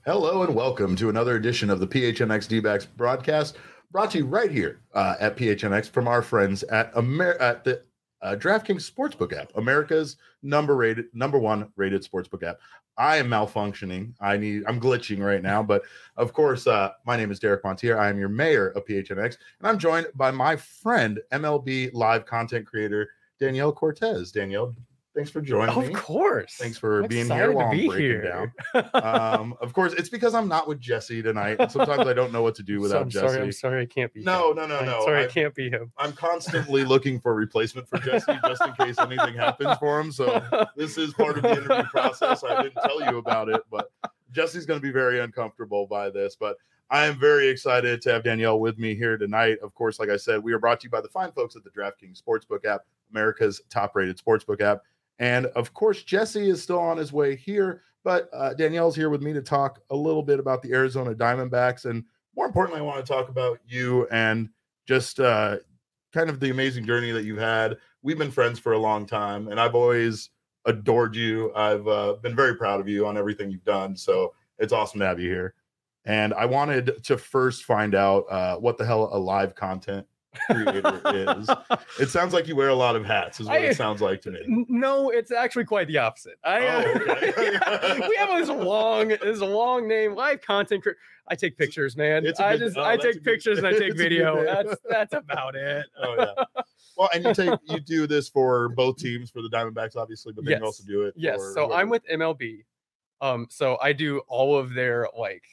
Hello and welcome to another edition of the PHNX D-backs broadcast, brought to you right here at PHNX from our friends at the DraftKings Sportsbook app, America's number one rated sportsbook app. I am malfunctioning. I'm glitching right now, but of course, my name is Derek Montier. I am your mayor of PHNX, and I'm joined by my friend, MLB live content creator Danielle Cortez. Danielle, thanks for joining me. Of course. Thanks for being here while I'm breaking down. Of course, it's because I'm not with Jesse tonight. And sometimes I don't know what to do without Jesse. I'm sorry, I can't be. No. Sorry, I can't be him. I'm constantly looking for a replacement for Jesse just in case anything happens for him. So this is part of the interview process. I didn't tell you about it, but Jesse's going to be very uncomfortable by this. But I am very excited to have Danielle with me here tonight. Of course, like I said, we are brought to you by the fine folks at the DraftKings Sportsbook app, America's top-rated sportsbook app. And of course, Jesse is still on his way here, but Danielle's here with me to talk a little bit about the Arizona Diamondbacks. And more importantly, I want to talk about you and just kind of the amazing journey that you've had. We've been friends for a long time, and I've always adored you. I've been very proud of you on everything you've done. So it's awesome to have you here. And I wanted to first find out what the hell a live content creator is. It sounds like you wear a lot of hats is what it sounds like to me. No, it's actually quite the opposite. Okay. We have this long name, live content I take pictures, man. I take pictures and I take video. That's about it. Oh yeah. Well, and you do this for both teams, for the Diamondbacks obviously, but then you also do it so I'm with MLB. So I do all of their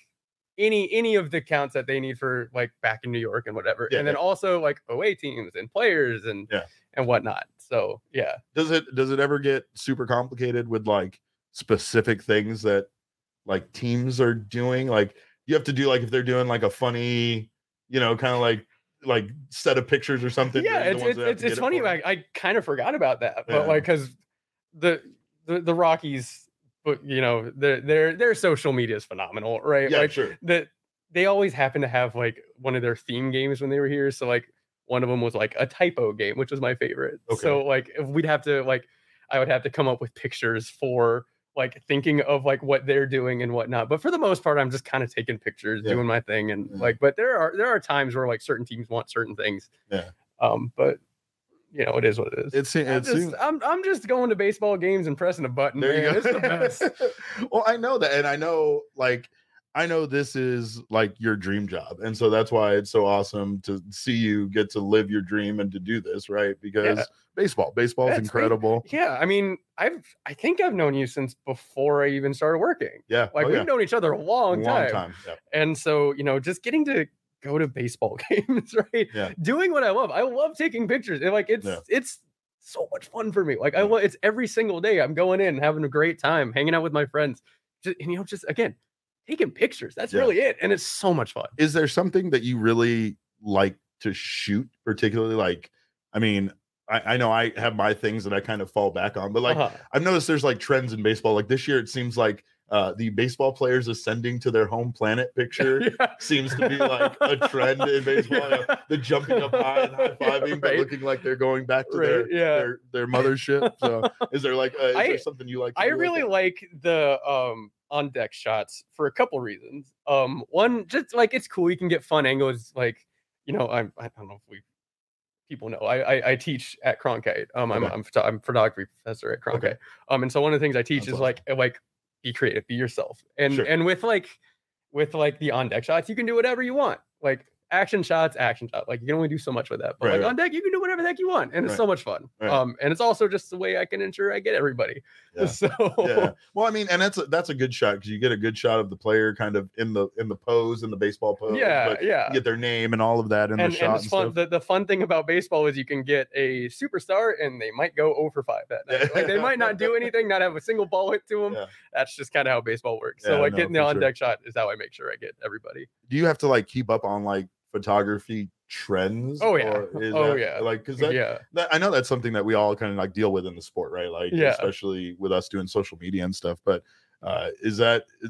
any of the counts that they need for back in New York and whatever. And then also away teams and players and whatnot. So yeah. Does it ever get super complicated with specific things that teams are doing? You have to do if they're doing a funny, kind of like set of pictures or something. Yeah, it's funny. I kind of forgot about that, but because the Rockies, but their social media is phenomenal, right? Yeah, sure. That they always happen to have one of their theme games when they were here. So one of them was a typo game, which was my favorite. Okay. So if we'd have to I would have to come up with pictures for thinking of what they're doing and whatnot. But for the most part, I'm just kind of taking pictures, doing my thing, and but there are times where certain teams want certain things. Yeah. But it is what it is. I'm just going to baseball games and pressing a button. There you go. It's the best. Well, I know that, and I know this is your dream job, and so that's why it's so awesome to see you get to live your dream and to do this, right? Because baseball is incredible. Great. Yeah, I mean, I think I've known you since before I even started working. Yeah, we've known each other a long time. Yeah. And so just getting to go to baseball games, right? Yeah. Doing what I love taking pictures. And it's so much fun for me. I love it's every single day. I'm going in, having a great time, hanging out with my friends, just again taking pictures. That's really it, and it's so much fun. Is there something that you really like to shoot, particularly? I mean, I know I have my things that I kind of fall back on, but I've noticed there's trends in baseball. This year, it seems like the baseball players ascending to their home planet picture seems to be a trend in baseball. The jumping up high and high-fiving, but looking like they're going back to their mothership. So is there is there something you like to do? I really like the on deck shots for a couple reasons. One, just it's cool, you can get fun angles. I don't know if people know I teach at Cronkite. I'm a photography professor at Cronkite. Okay. And so one of the things I teach is be creative, be yourself. And and with the on deck shots, you can do whatever you want. Action shots. You can only do so much with that. But on deck, you can do whatever the heck you want, and it's so much fun. Right. And it's also just the way I can ensure I get everybody. Yeah. So well, I mean, and that's a good shot because you get a good shot of the player kind of in the pose, in the baseball pose. Yeah. You get their name and all of that in the shot. And it's fun. The fun thing about baseball is you can get a superstar, and they might go 0 for 5 that night. They might not do anything, not have a single ball hit to them. Yeah. That's just kind of how baseball works. So getting the on deck shot is how I make sure I get everybody. Do you have to keep up on photography trends? Because I know that's something that we all kind of deal with in the sport, right? Especially with us doing social media and stuff. But does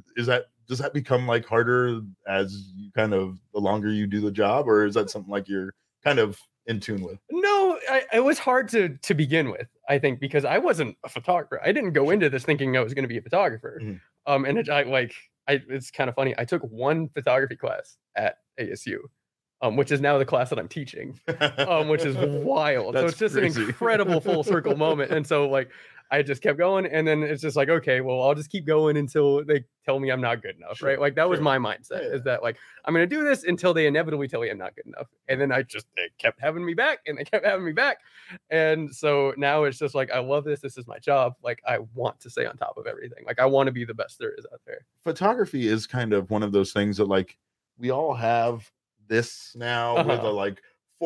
that become harder as you kind of the longer you do the job, or is that something you're kind of in tune with? No, it was hard to begin with, I think, because I wasn't a photographer. I didn't go into this thinking I was going to be a photographer. Mm-hmm. And it's kind of funny. I took one photography class at ASU, which is now the class that I'm teaching, which is wild. So That's it's just crazy. an incredible full circle moment. And so like I just kept going, and then it's just like, okay, well, I'll just keep going until they tell me I'm not good enough, Sure, right? Like that was sure. my mindset, Yeah. is that like I'm gonna do this until they inevitably tell me I'm not good enough, and then they kept having me back, and they kept having me back, and so now it's just like I love this. This is my job. Like I want to stay on top of everything. Like I want to be the best there is out there. Photography is kind of one of those things that like we all have this now with a like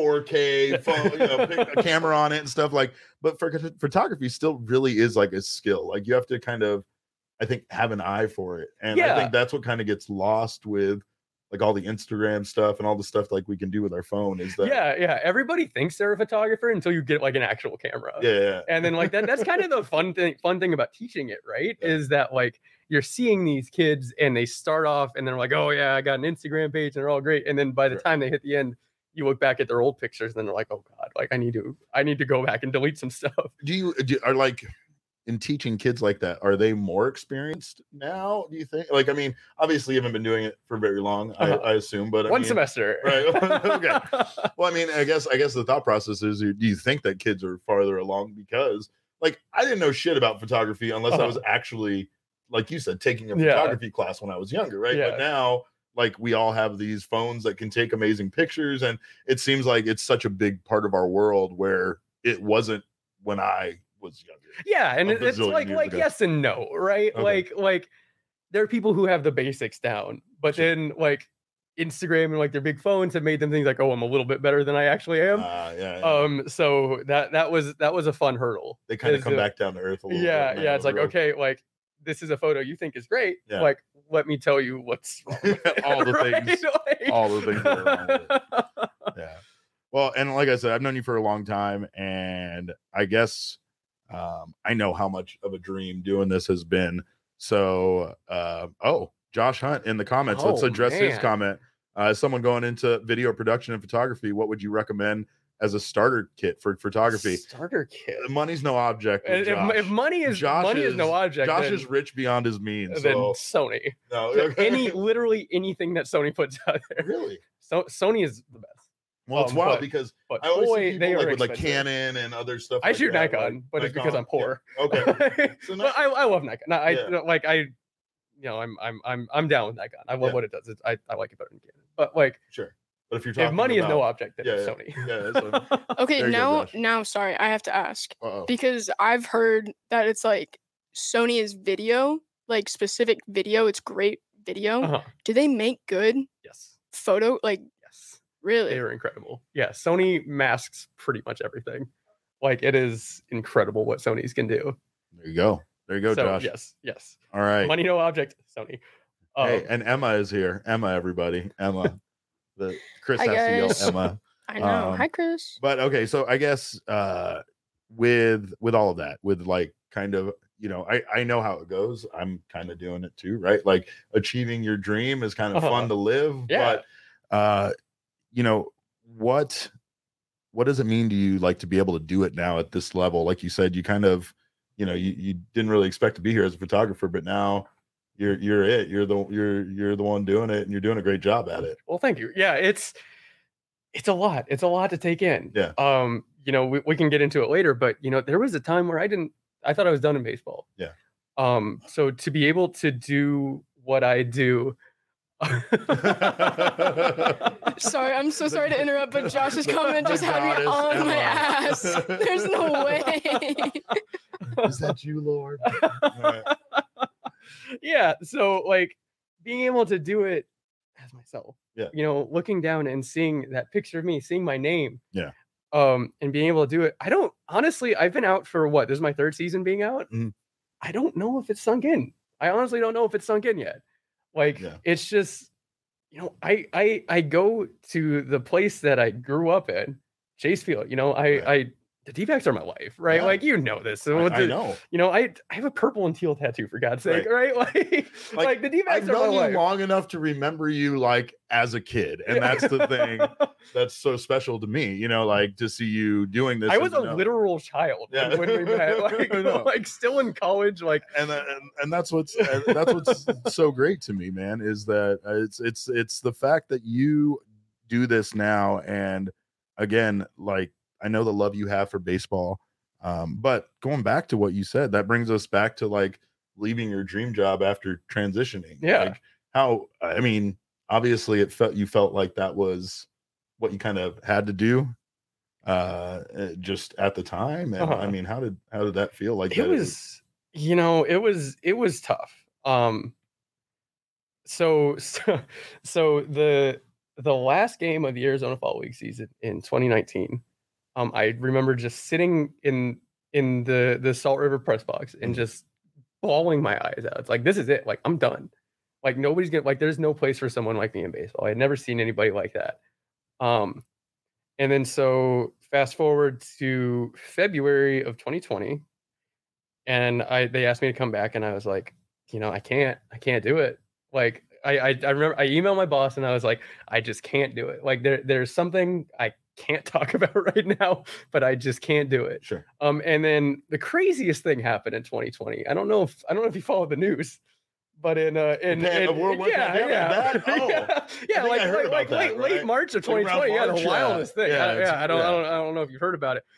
4K phone, pick a camera on it and stuff like. But for photography, still really is like a skill. Like you have to kind of, I think, have an eye for it, and I think that's what kind of gets lost with like all the Instagram stuff and all the stuff like we can do with our phone. Is that everybody thinks they're a photographer until you get like an actual camera. Yeah. And then like that's kind of the fun thing about teaching it, right? Yeah. Is that like you're seeing these kids and they start off and they're like, oh yeah, I got an Instagram page and they're all great. And then by the time they hit the end, you look back at their old pictures and then they're like, oh God, like I need to go back and delete some stuff. Are like in teaching kids like that, are they more experienced now, do you think? Like, I mean, obviously you haven't been doing it for very long, I assume, but one semester. Right. Okay. Well, I mean, I guess the thought process is, do you think that kids are farther along? Because like I didn't know shit about photography unless I was actually, like you said, taking a photography class when I was younger, right? But now like we all have these phones that can take amazing pictures, and it seems like it's such a big part of our world where it wasn't when I was younger. Yeah, and it's like yes and no, right? Okay. Like there are people who have the basics down, but then like Instagram and like their big phones have made them think like, oh, I'm a little bit better than I actually am. So that was a fun hurdle. They kind of come back down to earth a little bit. Yeah, it's like, okay, like this is a photo you think is great. Yeah. Like, let me tell you what's wrong with it, all the things, like... all the things that are wrong with it. Yeah. Well, and like I said, I've known you for a long time, and I guess I know how much of a dream doing this has been. So, Josh Hunt in the comments. Let's address his comment. As someone going into video production and photography, what would you recommend as a starter kit for photography? Starter kit. Money's no object. If money is no object, Josh is rich beyond his means. Then Sony. No, okay. Literally anything that Sony puts out there. Really? So Sony is the best. Well, it's wild because I always see people like with like Canon and other stuff. I shoot Nikon, but it's because I'm poor. Yeah. Okay. So I love Nikon. I'm down with Nikon. I love what it does. I like it better than Canon. But like, sure. But if you're talking if money about... is no object, then it's Sony. Yeah. Okay, now, sorry, I have to ask. Because I've heard that it's like Sony is video, like specific video. It's great video. Do they make good? Yes. Photo, like, yes. Really? They are incredible. Yeah, Sony masks pretty much everything. Like, it is incredible what Sony's can do. There you go, Josh. Yes. All right. Money no object, Sony. Hey, and Emma is here. Everybody. Emma. Chris has to yell Emma. I know. Hi, Chris. But okay, so I guess with all of that, with like kind of, I know how it goes. I'm kind of doing it too, right? Like achieving your dream is kind of fun to live. Yeah. But what does it mean to you, like, to be able to do it now at this level? Like you said, you kind of, you didn't really expect to be here as a photographer, but now you're the one doing it, and you're doing a great job at it. Well, thank you. Yeah, it's a lot. It's a lot to take in. Yeah. We can get into it later, but there was a time where I thought I was done in baseball. Yeah. So to be able to do what I do. Sorry, I'm so sorry to interrupt, but Josh's comment just had me on my ass. There's no way. Is that you, Lord? Right. Yeah, so like being able to do it as myself. Yeah. Looking down and seeing that picture of me, seeing my name. Yeah. And being able to do it. I've been out for what? This is my third season being out. Mm-hmm. I don't know if it's sunk in. I honestly don't know if it's sunk in yet. Like, It's just, I go to the place that I grew up in, Chase Field. I the D-backs are my life, right? Yeah. Like, you know this. So I know. You know, I have a purple and teal tattoo, for God's sake, right? Like the D-backs are my life. I've known you long enough to remember you like as a kid, and that's the thing that's so special to me. You know, like to see you doing this. I was a literal child when we met, like still in college, like, and that's what's so great to me, man. Is that it's the fact that you do this now, and again, like. I know the love you have for baseball, but going back to what you said, that brings us back to like leaving your dream job after transitioning. Yeah. Like how, I mean, obviously you felt like that was what you kind of had to do just at the time. And I mean, how did that feel? Like it was, you know, it was tough. So the last game of the Arizona Fall League season in 2019, I remember just sitting in the Salt River press box and just bawling my eyes out. It's like, this is it. Like, I'm done. Like, nobody's gonna, like, there's no place for someone like me in baseball. I had never seen anybody like that. And then so fast forward to February of 2020, and they asked me to come back, and I was like, you know, I can't do it. Like, I remember I emailed my boss and I was like, I just can't do it. Like, there's something I can't talk about right now, but I just can't do it. Sure. And then the craziest thing happened in 2020. I don't know if you follow the news, but in World War pandemic, like late March of 2020, the wildest thing. I don't know if you've heard about it.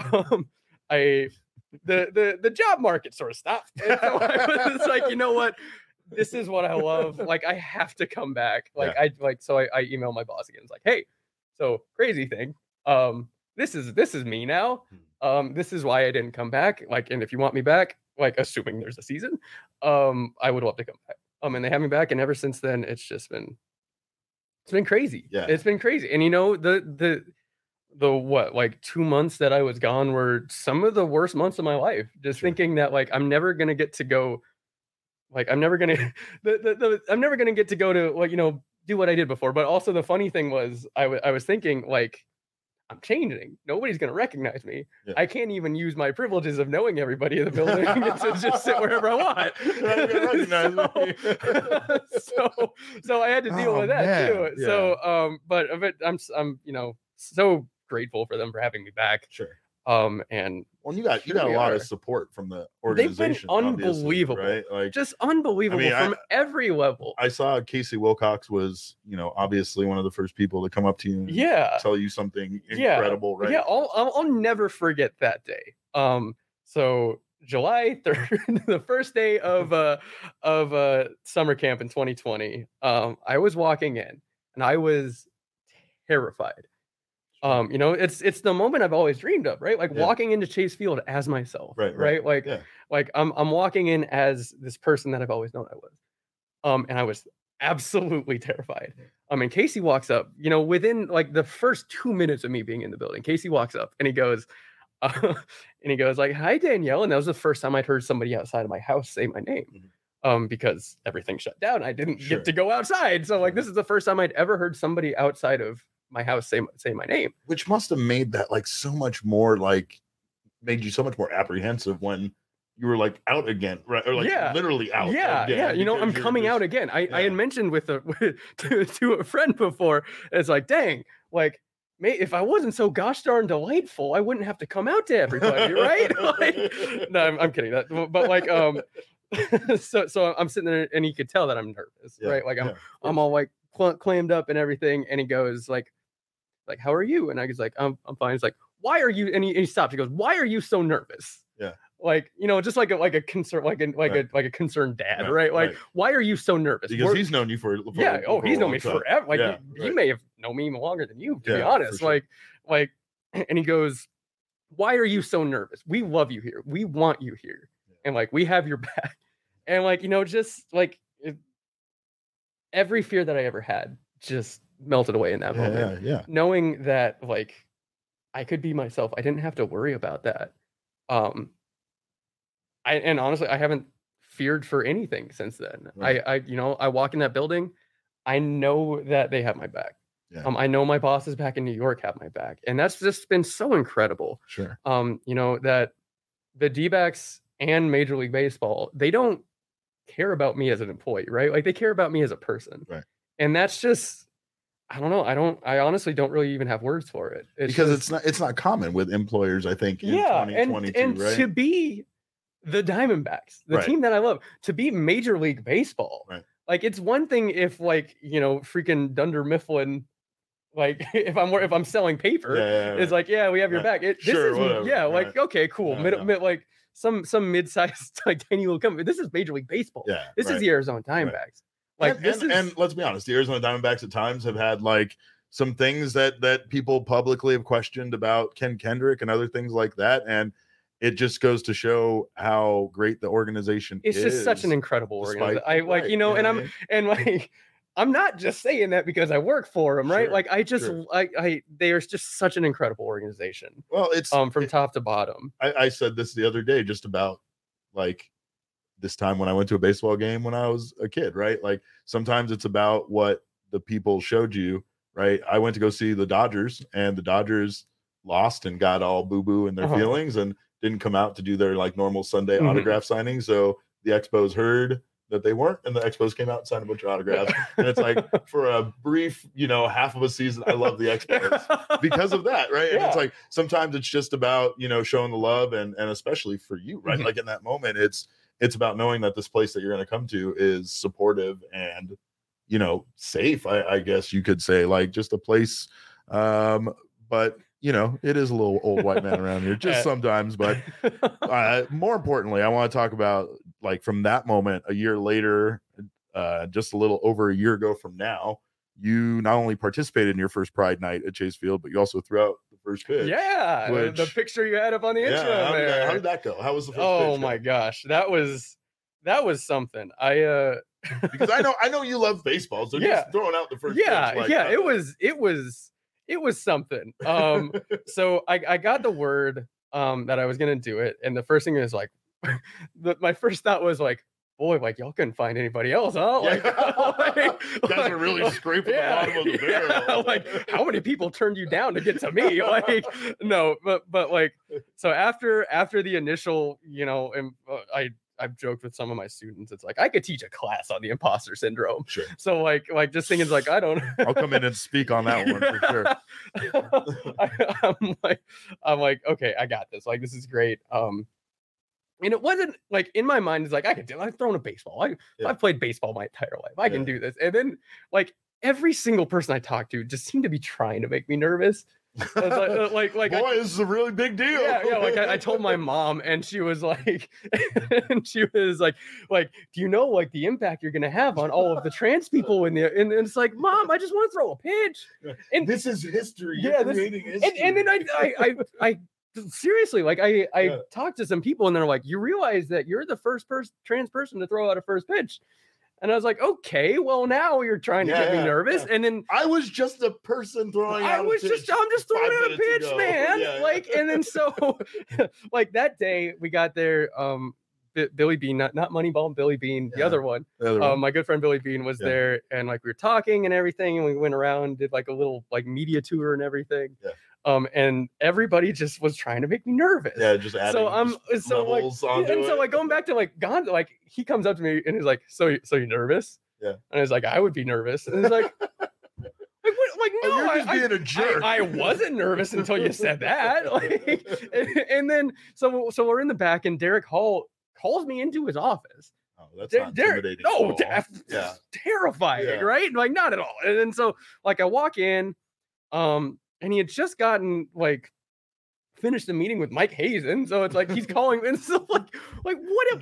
The job market sort of stopped. And so I was like, you know what? This is what I love. Like, I have to come back. Like, I emailed my boss again. It's like, hey, so crazy thing. This is me now. This is why I didn't come back. Like, and if you want me back, like, assuming there's a season, I would love to come back. And they have me back, and ever since then, it's been crazy. Yeah, it's been crazy. And you know, the what, like 2 months that I was gone were some of the worst months of my life. Just thinking that, like, I'm never gonna get to go. Like, I'm never gonna I'm never gonna get to go to, like, you know, do what I did before. But also the funny thing was I was thinking, like, I'm changing. Nobody's gonna recognize me. Yeah. I can't even use my privileges of knowing everybody in the building to just sit wherever I want. So I had to deal with that too. Yeah. So but I'm you know, so grateful for them for having me back. Sure. And well, you got a lot of support from the organization. They've been unbelievable, right? Like, just unbelievable from every level. I saw Casey Wilcox was, you know, obviously one of the first people to come up to you and tell you something incredible, right? Yeah, I'll never forget that day. So July 3rd, the first day of summer camp in 2020, I was walking in and I was terrified. You know, it's the moment I've always dreamed of, right? Like walking into Chase Field as myself, right? Like, like I'm walking in as this person that I've always known I was. And I was absolutely terrified. And Casey walks up, you know, within like the first 2 minutes of me being in the building, Casey walks up and he goes, like, "Hi, Danielle." And that was the first time I'd heard somebody outside of my house say my name. Because everything shut down. I didn't get to go outside. So like, this is the first time I'd ever heard somebody outside of my house say my name, which must have made that like so much more, like made you so much more apprehensive when you were like out again, right? Or like literally out. Yeah. You know, I'm coming out again. I had mentioned to a friend before. It's like, dang, like, mate, if I wasn't so gosh darn delightful, I wouldn't have to come out to everybody, right? Like, no, I'm kidding. But like, so I'm sitting there and he could tell that I'm nervous, right? Like I'm all like clammed up and everything, and he goes like, "How are you?" And I was like, I'm fine. He's like, "Why are you?" And he stops. He goes, "Why are you so nervous?" Yeah. Like, you know, just like a concern, like a concerned dad, right? Like, why are you so nervous? Because he's known you for he's known me forever. Like, he may have known me even longer than you, to be honest. Sure. Like, and he goes, "Why are you so nervous? We love you here. We want you here, and like, we have your back." And like, you know, just like every fear that I ever had just melted away in that moment. Yeah. Knowing that like I could be myself. I didn't have to worry about that. And honestly, I haven't feared for anything since then. Right. I walk in that building, I know that they have my back. Yeah. I know my bosses back in New York have my back, and that's just been so incredible. Sure. That the D-backs and Major League Baseball, they don't care about me as an employee, right? Like they care about me as a person. Right. And that's just, I don't know. I honestly don't really even have words for it. Because it's not common with employers, I think, in 2022, and right? to be the Diamondbacks, the team that I love, to be Major League Baseball. Right. Like it's one thing if freaking Dunder Mifflin, like if I'm selling paper, it's like, we have your back. Okay, cool. Like some mid-sized like tiny little company. This is Major League Baseball. Yeah. This is the Arizona Diamondbacks. Like and let's be honest, the Arizona Diamondbacks at times have had like some things that people publicly have questioned about Ken Kendrick and other things like that. And it just goes to show how great the organization is. It's just such an incredible organization. I'm not just saying that because I work for them, right? Like they are just such an incredible organization. Well, it's from top to bottom. I said this the other day, just about like this time when I went to a baseball game when I was a kid, right? Like sometimes it's about what the people showed you, right? I went to go see the Dodgers, and the Dodgers lost and got all boo-boo in their feelings and didn't come out to do their like normal Sunday autograph signing. So the Expos heard that they weren't, and the Expos came out and signed a bunch of autographs. And it's like, for a brief, half of a season, I love the Expos because of that, right? And it's like sometimes it's just about showing the love, and especially for you, right? Like in that moment, it's about knowing that this place that you're going to come to is supportive and safe, I guess you could say, like just a place, but it is a little old white man around here just sometimes. But more importantly, I want to talk about like from that moment, a year later, just a little over a year ago from now, you not only participated in your first Pride Night at Chase Field, but you also threw out the first pitch. Yeah, the picture you had up on the intro there. How did that go? How was the first pitch? Oh my gosh, that was something. Because I know you love baseball, so just throwing out the first pitch. It was something. So I got the word that I was gonna do it, and the first thing is like, my first thought was like, boy, like y'all couldn't find anybody else, huh? Like, guys are really scraping the bottom of the barrel. Like, how many people turned you down to get to me? Like, no, but like, so after the initial, I've joked with some of my students. It's like I could teach a class on the imposter syndrome. Sure. So like just thinking like I don't. I'll come in and speak on that one for sure. I'm like, okay, I got this. Like this is great. And it wasn't like in my mind, it's like I've thrown a baseball. I've played baseball my entire life. I can do this. And then like every single person I talked to just seemed to be trying to make me nervous. Boy, this is a really big deal. Yeah. Like I told my mom, and she was like, do you know like the impact you're gonna have on all of the trans people in there? And it's like, Mom, I just want to throw a pitch. And this is history. You're creating history. And then I seriously, like I talked to some people, and they're like, you realize that you're the first trans person to throw out a first pitch. And I was like, okay, well, now you're trying to get me nervous. Yeah. And then I was just a person throwing out a pitch. I'm just throwing out a pitch, man. And then so like that day we got there, Billy Bean, not Moneyball, Billy Bean, the other one. My good friend Billy Bean was there, and like we were talking and everything, and we went around, did like a little like media tour and everything. Yeah. And everybody just was trying to make me nervous. Yeah, just adding going back to like Gonzo, like he comes up to me and he's like, so you nervous? Yeah. And I was like, I would be nervous. And he's like, no, you're just being a jerk. I wasn't nervous until you said that. Like, and then so we're in the back, and Derek Hall calls me into his office. Oh, that's not intimidating. No, terrifying, right? Like not at all. And then so like I walk in, and he had just gotten like finished the meeting with Mike Hazen, so it's like he's calling, and so like what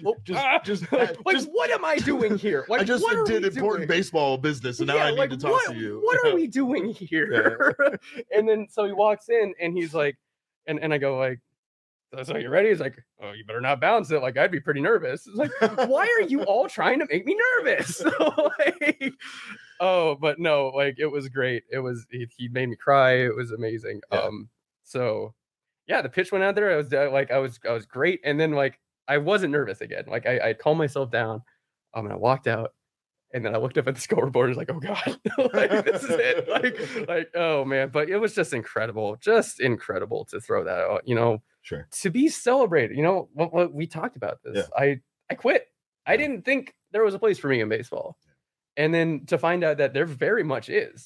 am I doing here? Like I just did important baseball business, and now I need to talk to you. What are we doing here? And then so he walks in, and he's like, and I go like, so you ready? He's like, oh, you better not bounce it. Like I'd be pretty nervous. It's like, why are you all trying to make me nervous? Like, oh, but no, like it was great. It was he made me cry. It was amazing. Yeah. So yeah, the pitch went out there. I was great. And then like I wasn't nervous again. Like I calmed myself down. And I walked out, And then I looked up at the scoreboard and was like, oh God, like, this is it. Like, oh man. But it was just incredible to throw that out, Sure. To be celebrated. What we talked about this. Yeah. I quit. Yeah. I didn't think there was a place for me in baseball. And then to find out that there very much is,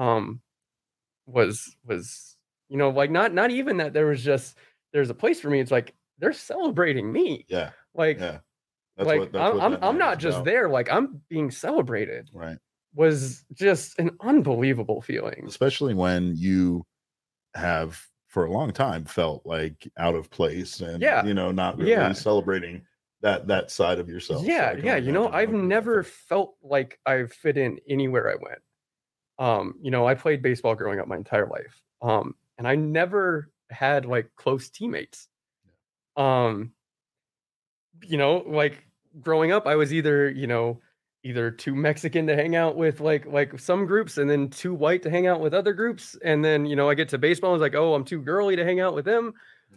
was like not even that there's a place for me. It's like they're celebrating me. Yeah. Like, yeah. I'm not just there. Like I'm being celebrated. Right. Was just an unbelievable feeling. Especially when you have for a long time felt like out of place and not really celebrating that side of yourself. Yeah. So I've never felt like I fit in anywhere I went. I played baseball growing up my entire life. And I never had like close teammates. Like growing up, I was either too Mexican to hang out with like some groups, and then too white to hang out with other groups. And then, I get to baseball, and it's like, oh, I'm too girly to hang out with them.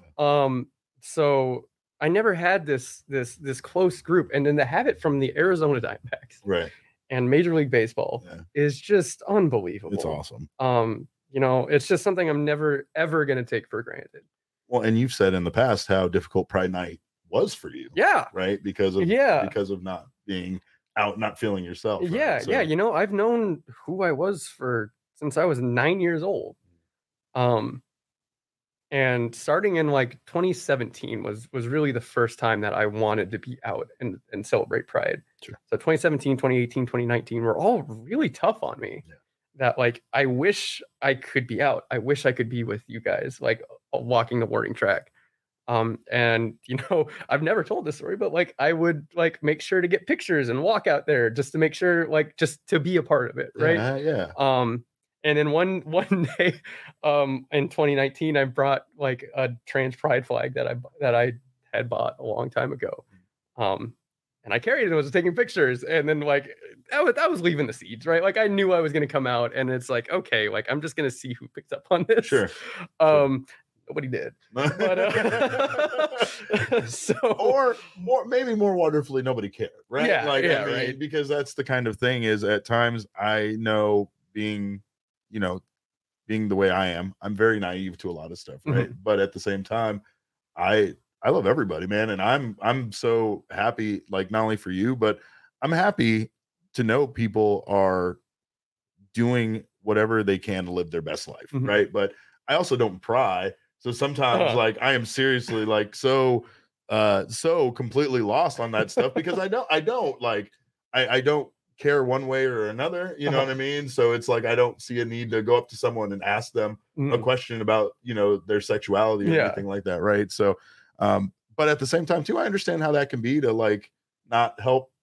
So I never had this close group. And then to have it from the Arizona Diamondbacks. Right. And Major League Baseball is just unbelievable. It's awesome. It's just something I'm never, ever going to take for granted. Well, and you've said in the past how difficult Pride Night was for you. Yeah. Right. Because of not being out, not feeling yourself. Right? Yeah. So. Yeah. I've known who I was since I was 9 years old. And starting in like 2017 was really the first time that I wanted to be out and celebrate Pride. Sure. So 2017, 2018, 2019 were all really tough on me. Yeah. That like, I wish I could be out. I wish I could be with you guys, like walking the warning track. And I've never told this story, but like I would like make sure to get pictures and walk out there just to make sure, like, just to be a part of it. Right. Yeah. And then one day, in 2019, I brought like a trans pride flag that I had bought a long time ago. And I carried it and was taking pictures. And then like, that was leaving the seeds, right? Like I knew I was going to come out, and it's like, okay, like I'm just going to see who picks up on this. Sure. Nobody did. But, maybe more wonderfully, nobody cared, right? Yeah, right. Because that's the kind of thing is at times I know being the way I am, I'm very naive to a lot of stuff, right? Mm-hmm. But at the same time, I love everybody, man. And I'm so happy, like not only for you, but I'm happy to know people are doing whatever they can to live their best life. Mm-hmm. Right. But I also don't pry. So sometimes like I am seriously like so completely lost on that stuff because I don't care one way or another, you know what I mean? So it's like I don't see a need to go up to someone and ask them a question about their sexuality or anything like that, right? So but at the same time too, I understand how that can be to like not help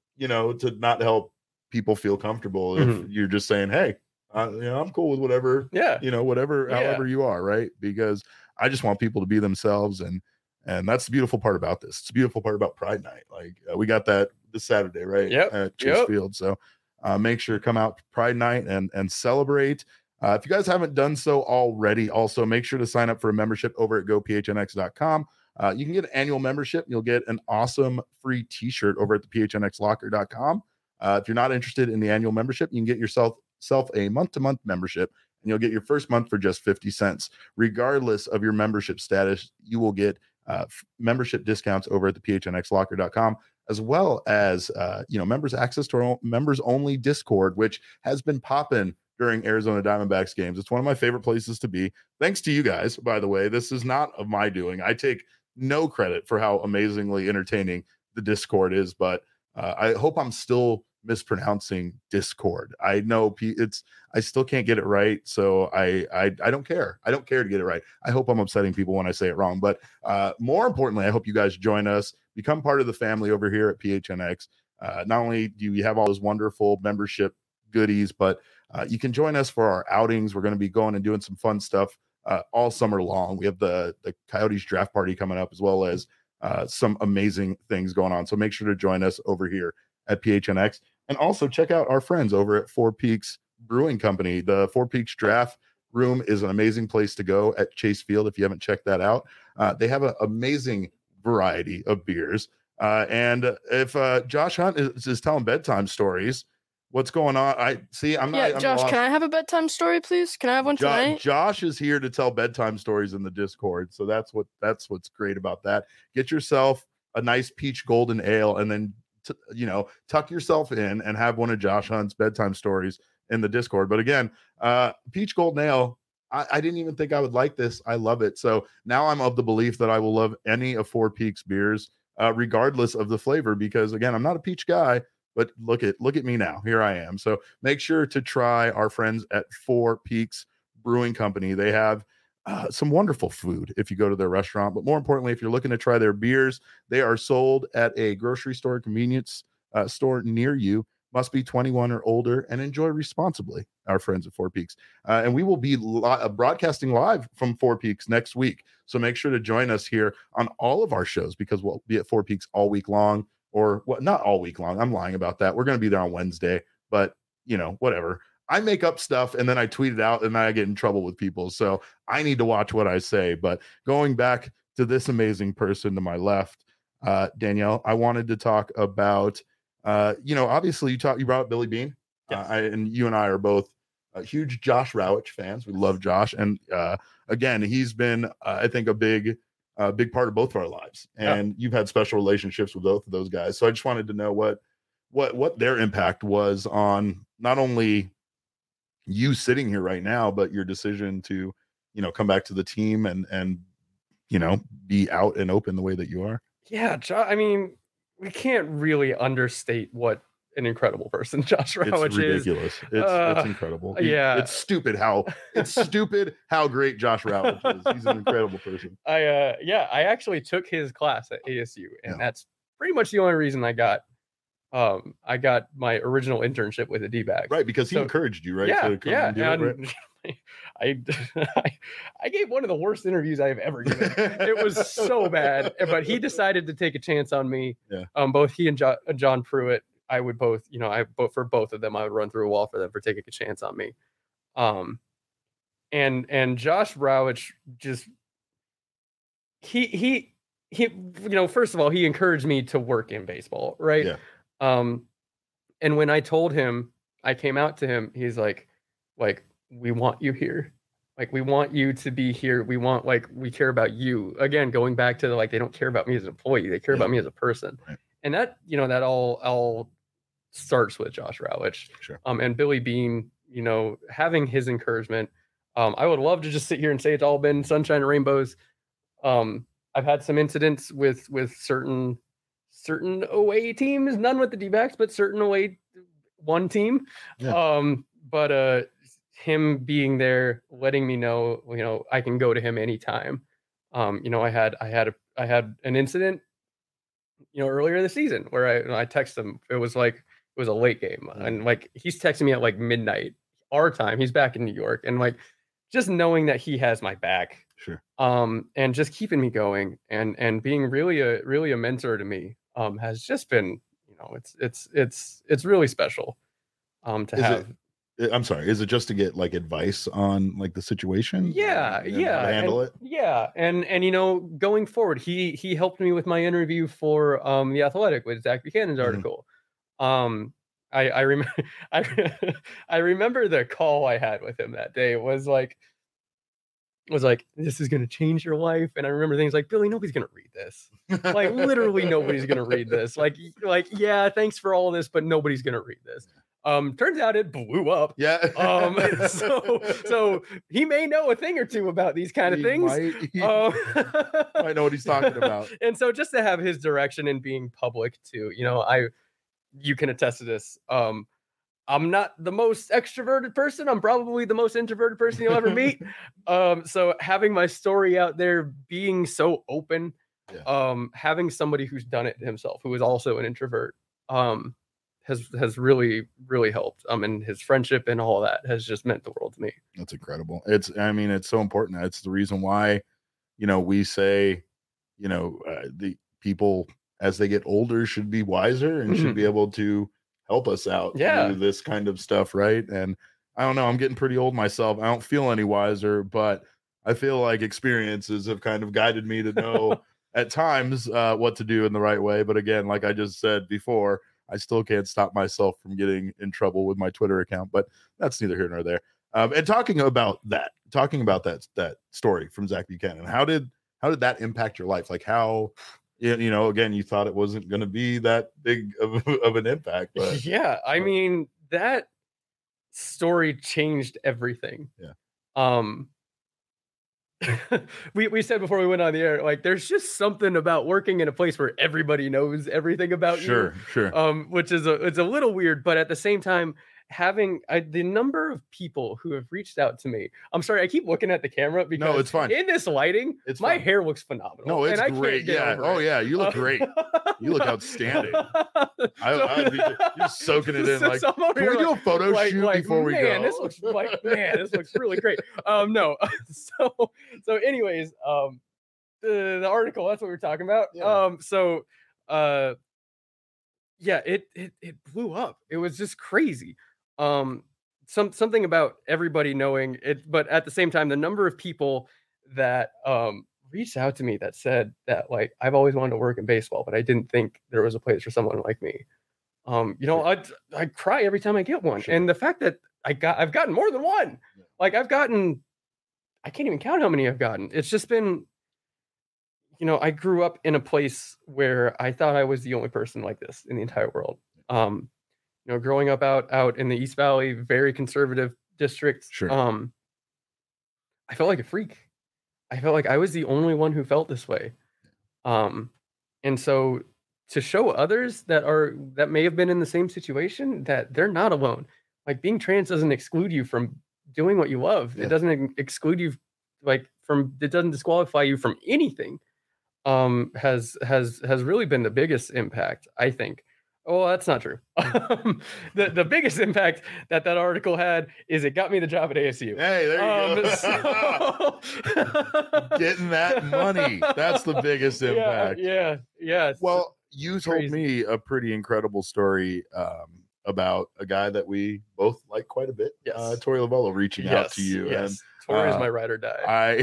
people feel comfortable if you're just saying, hey, I'm cool with whatever, however you are, right? Because I just want people to be themselves, and that's the beautiful part about this. It's the beautiful part about Pride Night. Like we got that this Saturday, right? At Chase Field. So make sure to come out Pride Night and celebrate. If you guys haven't done so already, also make sure to sign up for a membership over at gophnx.com. You can get an annual membership. You'll get an awesome free t-shirt over at the phnxlocker.com. If you're not interested in the annual membership, you can get yourself a month-to-month membership, and you'll get your first month for just 50 cents. Regardless of your membership status, you will get membership discounts over at the phnxlocker.com, as well as members access to our members only Discord, which has been popping during Arizona Diamondbacks games. It's one of my favorite places to be. Thanks to you guys, by the way. This is not of my doing. I take no credit for how amazingly entertaining the Discord is, but I hope I'm still mispronouncing Discord. I know I still can't get it right, so I don't care. I don't care to get it right. I hope I'm upsetting people when I say it wrong, but more importantly, I hope you guys join us, become part of the family over here at PHNX. Not only do you have all those wonderful membership goodies, but you can join us for our outings. We're going to be going and doing some fun stuff all summer long. We have the Coyotes draft party coming up, as well as some amazing things going on. So make sure to join us over here at PHNX, and also check out our friends over at Four Peaks Brewing Company. The Four Peaks Draft Room is an amazing place to go at Chase Field if you haven't checked that out. They have an amazing variety of beers. And if Josh Hunt is telling bedtime stories, what's going on? I'm Josh, can I have a bedtime story, please? Can I have one tonight? Josh is here to tell bedtime stories in the Discord, so that's what's great about that. Get yourself a nice peach golden ale, and then tuck yourself in and have one of Josh Hunt's bedtime stories in the Discord. But again, peach golden ale, I didn't even think I would like this. I love it. So now I'm of the belief that I will love any of Four Peaks beers, regardless of the flavor, because again, I'm not a peach guy, but look at me now. Here I am. So make sure to try our friends at Four Peaks Brewing Company. They have some wonderful food if you go to their restaurant, but more importantly, if you're looking to try their beers, they are sold at a grocery store, convenience store near you. Must be 21 or older and enjoy responsibly. Our friends at Four Peaks. And we will be broadcasting live from Four Peaks next week. So make sure to join us here on all of our shows, because we'll be at Four Peaks all week long, or what? Not all week long. I'm lying about that. We're going to be there on Wednesday, but whatever. I make up stuff and then I tweet it out and then I get in trouble with people. So I need to watch what I say. But going back to this amazing person to my left, Danielle, I wanted to talk about, obviously you brought up Billy Beane. Yes. And you and I are both huge Josh Rawitsch fans. We love Josh. And again, he's been, I think, a big part of both of our lives. And you've had special relationships with both of those guys. So I just wanted to know what their impact was on not only you sitting here right now, but your decision to, come back to the team and be out and open the way that you are. Yeah. I mean, we can't really understate what an incredible person Josh Rawitsch is. It's ridiculous. It's incredible. It's stupid how great Josh Rawitsch is. He's an incredible person. I actually took his class at ASU, and that's pretty much the only reason I got my original internship with the D-backs. Right, because he encouraged you, right? I gave one of the worst interviews I've ever given. It was so bad, but he decided to take a chance on me. Yeah. Both he and John Pruitt, I would both, for both of them, I would run through a wall for them for taking a chance on me. And Josh Rawitsch just he first of all, he encouraged me to work in baseball, right? Yeah. And when I told him, I came out to him, he's like, we want you here. Like, we want you to be here. We care about you. Again, going back to they don't care about me as an employee. They care about me as a person. Right. And that, that all starts with Josh Rawitsch. Sure. And Billy Beane, having his encouragement. I would love to just sit here and say it's all been sunshine and rainbows. I've had some incidents with certain away teams, none with the D-backs, but certain away one team. Yeah. But him being there, letting me know, I can go to him anytime. I had an incident, earlier this season where I texted him. It was a late game, and he's texting me at midnight our time. He's back in New York, and just knowing that he has my back. Sure. And just keeping me going and being really a mentor to me has just been, it's really special to have. I'm sorry. Is it just to get advice on the situation? Yeah. And how to handle it. Yeah. And going forward, he helped me with my interview for The Athletic with Zach Buchanan's article. I remember I remember the call I had with him that day. It was like, this is going to change your life. And I remember things like, Billy, nobody's going to read this. Literally nobody's going to read this. Yeah, thanks for all this, but nobody's going to read this. Turns out it blew up. Yeah. So he may know a thing or two about these kind of things. I know what he's talking about. And so just to have his direction and being public too, you can attest to this. I'm not the most extroverted person. I'm probably the most introverted person you'll ever meet. So having my story out there, being so open, having somebody who's done it himself, who is also an introvert, has really, really helped. And his friendship and all that has just meant the world to me. That's incredible. It's so important. It's the reason why, we say, the people as they get older should be wiser and should be able to help us out through this kind of stuff, right? And I don't know, I'm getting pretty old myself. I don't feel any wiser, but I feel like experiences have kind of guided me to know at times what to do in the right way. But again, like I just said before, I still can't stop myself from getting in trouble with my Twitter account, but that's neither here nor there. And talking about that story from Zach Buchanan, how did that impact your life? Like how, you know, again, you thought it wasn't going to be that big of an impact, but yeah, I mean, that story changed everything. Yeah. We said before we went on the air, like there's just something about working in a place where everybody knows everything about you. Sure. Which is it's a little weird, but at the same time, having the number of people who have reached out to me. I'm sorry, I keep looking at the camera because no, it's fine. In this lighting, my hair looks phenomenal. No, it's great. Yeah. Oh yeah, you look great. You look outstanding. You're soaking it in. Like, can we do a photo shoot before we go? This looks really great. No. So anyways, the article, that's what we were talking about. Yeah. Yeah, it blew up. It was just crazy. Something about everybody knowing it, but at the same time, the number of people that reached out to me that said that, like, I've always wanted to work in baseball, but I didn't think there was a place for someone like me. You know, I cry every time I get one. Sure. And the fact that I've gotten more than one. Yeah. Like I can't even count how many I've gotten. It's just been, you know, I grew up in a place where I thought I was the only person like this in the entire world. You know, growing up out in the East Valley, very conservative district. Sure. I felt like a freak. I felt like I was the only one who felt this way. And so to show others that may have been in the same situation, that they're not alone. Like being trans doesn't exclude you from doing what you love. Yeah. It doesn't exclude you it doesn't disqualify you from anything. Has really been the biggest impact, I think. Oh, that's not true. The biggest impact that article had is it got me the job at ASU. Hey, there you go. Getting that money. That's the biggest impact. Yeah. Well, you told me a pretty incredible story about a guy that we both like quite a bit. Yes. Tori Lovello reaching out to you. Yes. And Tori is my ride or die.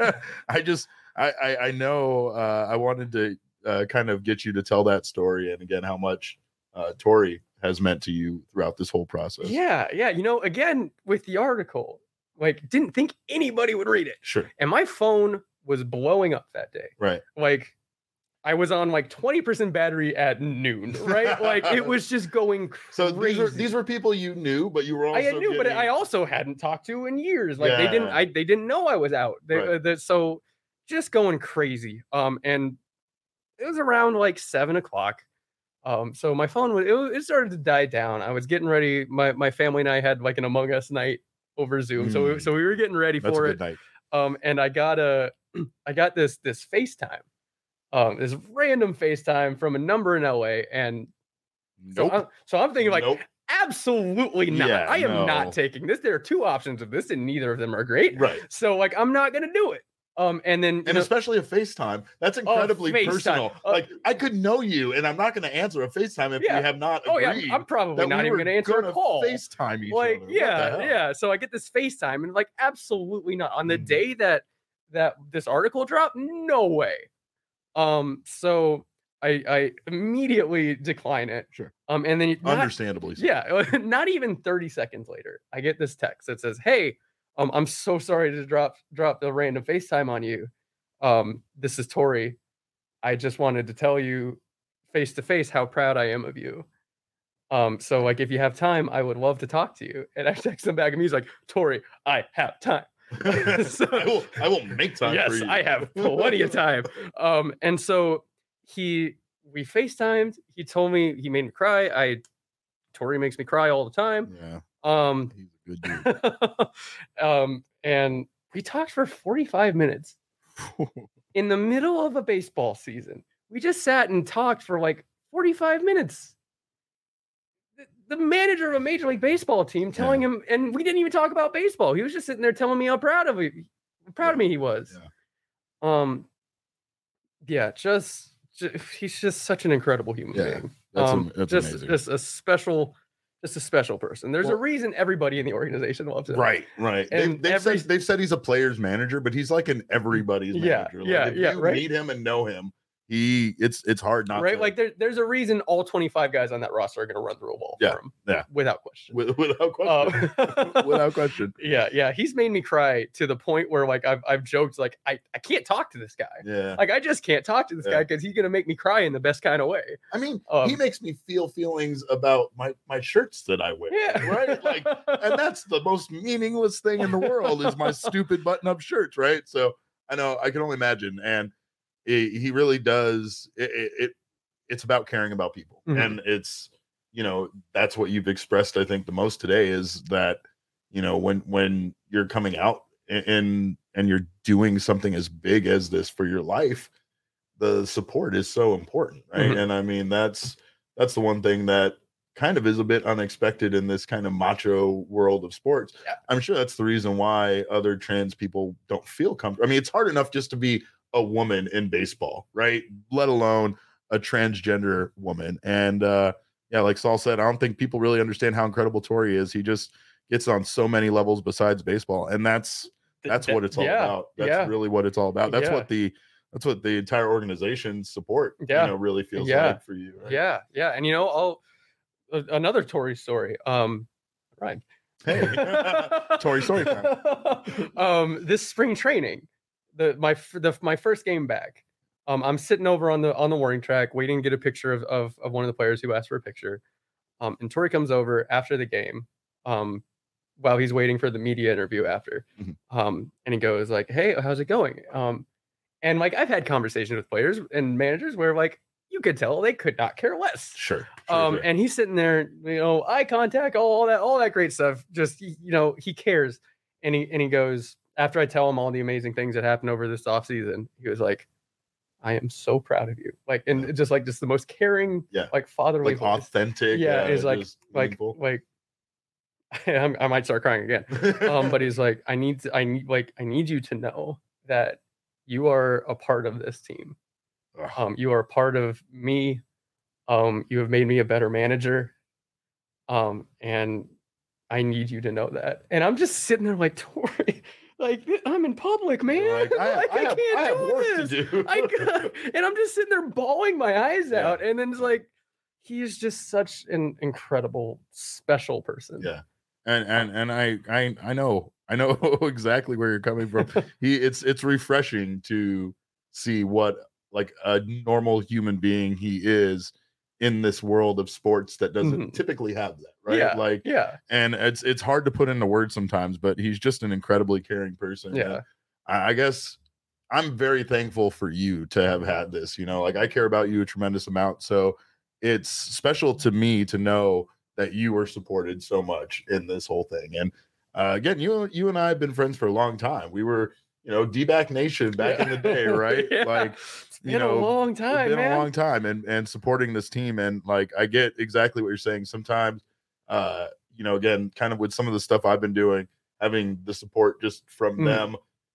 I know I wanted to kind of get you to tell that story, and again, how much Tori has meant to you throughout this whole process. Yeah. You know, again, with the article, like, didn't think anybody would read it. Sure. And my phone was blowing up that day. Right. Like, I was on like 20% battery at noon, right? Like, it was just going crazy. So these were people you knew, but you were also but I also hadn't talked to in years. Like, they didn't know I was out. So just going crazy. And it was around like 7:00. So my phone it started to die down. I was getting ready. My family and I had like an Among Us night over Zoom. So we were getting ready for it. Night. And I got this FaceTime. This random FaceTime from a number in LA. And so I'm thinking like, absolutely not. Yeah, I am not taking this. There are two options of this, and neither of them are great. Right. So like, I'm not gonna do it. And especially a FaceTime, that's incredibly personal. Like, I could know you, and I'm not going to answer a FaceTime if we have not agreed. I'm probably not even going to answer a call. FaceTime each other. Yeah. So I get this FaceTime, and like, absolutely not. On the day that this article dropped, no way. So I immediately decline it. Sure. And then understandably so. Yeah, not even 30 seconds later, I get this text that says, "Hey, I'm so sorry to drop the random FaceTime on you. This is Tori. I just wanted to tell you face to face how proud I am of you. So like, if you have time, I would love to talk to you." And I text him back, and he's like, "Tori, I have time." So, I will make time for you. Yes, I have plenty of time. And so we FaceTimed. He told me, he made me cry. Tori makes me cry all the time. Yeah. He's a good dude. And we talked for 45 minutes in the middle of a baseball season. We just sat and talked for like 45 minutes. The manager of a Major League Baseball team telling him, and we didn't even talk about baseball. He was just sitting there telling me how proud of me he was. Yeah. He's just such an incredible human being. That's amazing. Just a special person. There's a reason everybody in the organization loves him. Right. And they've said he's a player's manager, but he's like an everybody's manager. Like, if you meet him and know him, it's hard not right. to. Like there's a reason all 25 guys on that roster are going to run through a wall for him. Yeah, without question. Without question. Without question. Yeah. He's made me cry to the point where like I've joked like I can't talk to this guy. Yeah. Like I just can't talk to this guy because he's going to make me cry in the best kind of way. I mean, he makes me feel feelings about my shirts that I wear. Yeah. Right. Like, and that's the most meaningless thing in the world is my stupid button-up shirts. Right. So I know I can only imagine, and he really does. It's about caring about people, and it's that's what you've expressed. I think the most today is that when you're coming out and you're doing something as big as this for your life, the support is so important, right? And I mean that's the one thing that kind of is a bit unexpected in this kind of macho world of sports. Yeah. I'm sure that's the reason why other trans people don't feel comfortable. I mean, it's hard enough just to be a woman in baseball, right? Let alone a transgender woman. And like Saul said, I don't think people really understand how incredible Tori is. He just gets on so many levels besides baseball, and that's what it's all about. That's really what it's all about. That's what the entire organization support really feels like for you, right? Yeah. And another Tori story. Right. Hey, Tori story time. This spring training, my first game back. I'm sitting over on the warning track, waiting to get a picture of one of the players who asked for a picture. And Tori comes over after the game, while he's waiting for the media interview after. And he goes like, "Hey, how's it going?" And like I've had conversations with players and managers where like you could tell they could not care less. Sure. And he's sitting there, eye contact, all that great stuff. Just he cares. And he goes, after I tell him all the amazing things that happened over this offseason, he was like, "I am so proud of you." Like, and just the most caring, like fatherly, like authentic. Is like I might start crying again. But he's like, I need you to know that you are a part of this team. You are a part of me. You have made me a better manager. And I need you to know that. And I'm just sitting there like, Tori, like I'm in public, man. I can't do this. And I'm just sitting there bawling my eyes out. And then it's like, he's just such an incredible, special person. Yeah. And I know exactly where you're coming from. It's refreshing to see what like a normal human being he is in this world of sports that doesn't typically have that, right? And it's hard to put into words sometimes, but he's just an incredibly caring person. Yeah. And I guess I'm very thankful for you to have had this, like I care about you a tremendous amount. So it's special to me to know that you were supported so much in this whole thing. And again, you and I have been friends for a long time. We were, D-back Nation back in the day, right? Like, it's been a long time, a long time, and supporting this team. And like, I get exactly what you're saying. Sometimes, again, kind of with some of the stuff I've been doing, having the support just from them,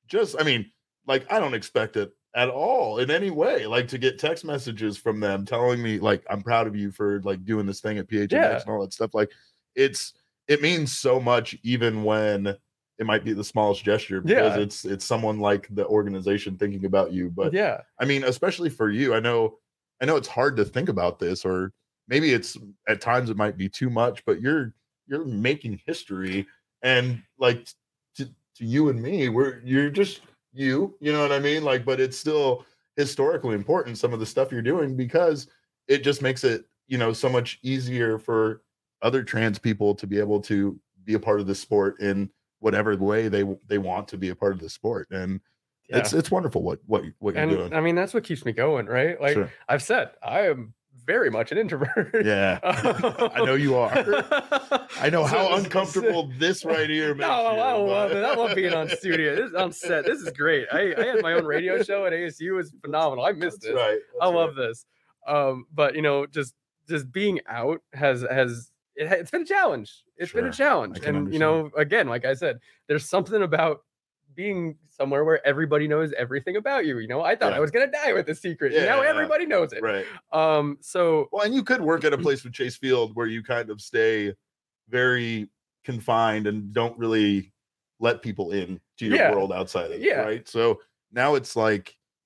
I don't expect it at all in any way, like to get text messages from them telling me like, I'm proud of you for like doing this thing at PHNX and all that stuff. Like it means so much, even when it might be the smallest gesture, because it's someone like the organization thinking about you. But I mean, especially for you, I know it's hard to think about this, or maybe it's at times it might be too much, but you're making history, and like to you and me, you're just you know what I mean? Like, but it's still historically important, some of the stuff you're doing, because it just makes it, so much easier for other trans people to be able to be a part of the sport in whatever way they want to be a part of the sport. And it's wonderful what you're doing. I mean, that's what keeps me going, right? Like I've said, I am very much an introvert. Yeah. I know you are. I know how uncomfortable this right here makes you. I love it. I love being on studio. This is on set. This is great. I had my own radio show at ASU. It's phenomenal. I missed it. Right. I love this. But just being out it's been a challenge. It's been a challenge. And again, like I said, there's something about being somewhere where everybody knows everything about you. I thought I was gonna die with the secret. Now everybody knows it. Right. And you could work at a place with Chase Field where you kind of stay very confined and don't really let people in to your world outside of it. Right. So now it's like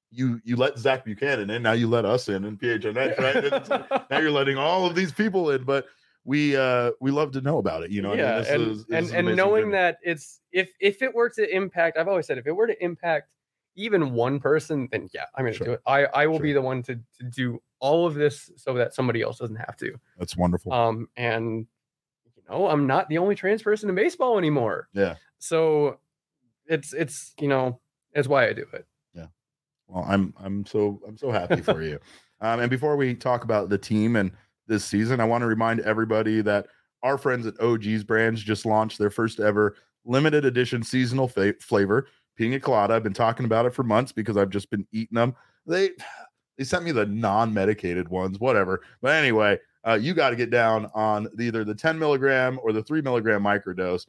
you let Zach Buchanan in, now you let us in PHNX, right? Now you're letting all of these people in, but we love to know about it, you know. Yeah, I mean, and knowing that it's if it were to impact, I've always said if it were to impact even one person, then yeah, I'm gonna do it. I will be the one to do all of this so that somebody else doesn't have to. That's wonderful. And you know, I'm not the only trans person in baseball anymore. Yeah. So it's you know, that's why I do it. Yeah. Well, I'm so happy for you. And before we talk about the team and this season, I want to remind everybody that our friends at OG's Brands just launched their first ever limited edition seasonal flavor, Pina Colada. I've been talking about it for months because I've just been eating them. They sent me the non-medicated ones, whatever. But anyway, you got to get down on either the 10 milligram or the 3 milligram microdose.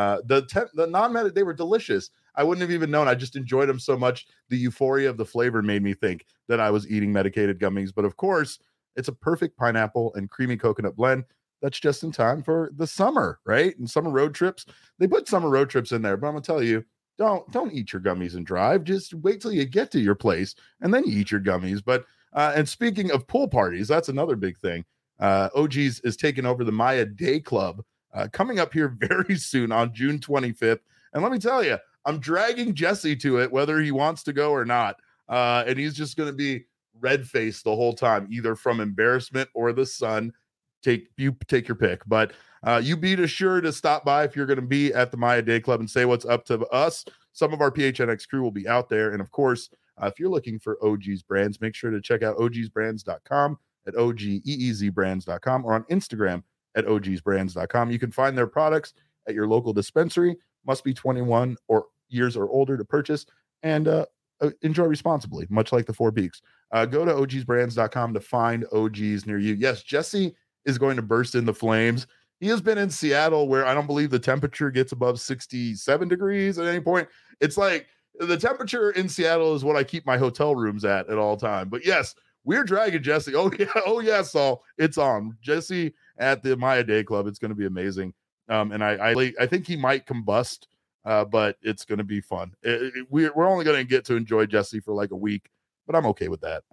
The non-med, they were delicious. I wouldn't have even known. I just enjoyed them so much. The euphoria of the flavor made me think that I was eating medicated gummies. But of course, it's a perfect pineapple and creamy coconut blend that's just in time for the summer, right? And summer road trips. They put summer road trips in there, but I'm gonna tell you, don't eat your gummies and drive. Just wait till you get to your place and then you eat your gummies. But and speaking of pool parties, that's another big thing. OG's is taking over the Maya Day Club coming up here very soon on June 25th. And let me tell you, I'm dragging Jesse to it, whether he wants to go or not. And he's just going to be red-faced the whole time, either from embarrassment or the sun. Take your pick. But you be sure to stop by if you're going to be at the Maya Day Club and say what's up to us. Some of our PHNX crew will be out there. And of course, if you're looking for OG's Brands, make sure to check out ogsbrands.com at OGEEZbrands.com or on Instagram at ogsbrands.com. You can find their products at your local dispensary. Must be 21 or years or older to purchase, and enjoy responsibly, much like the Four Peaks. Go to ogsbrands.com to find OGs near you. Yes, Jesse is going to burst in the flames. He has been in Seattle where I don't believe the temperature gets above 67 degrees at any point. It's like the temperature in Seattle is what I keep my hotel rooms at all time. But yes, we're dragging Jesse. Oh yeah, Saul, it's on. Jesse at the Maya Day Club. It's going to be amazing. And I think he might combust, but it's going to be fun. We're only going to get to enjoy Jesse for like a week, but I'm okay with that.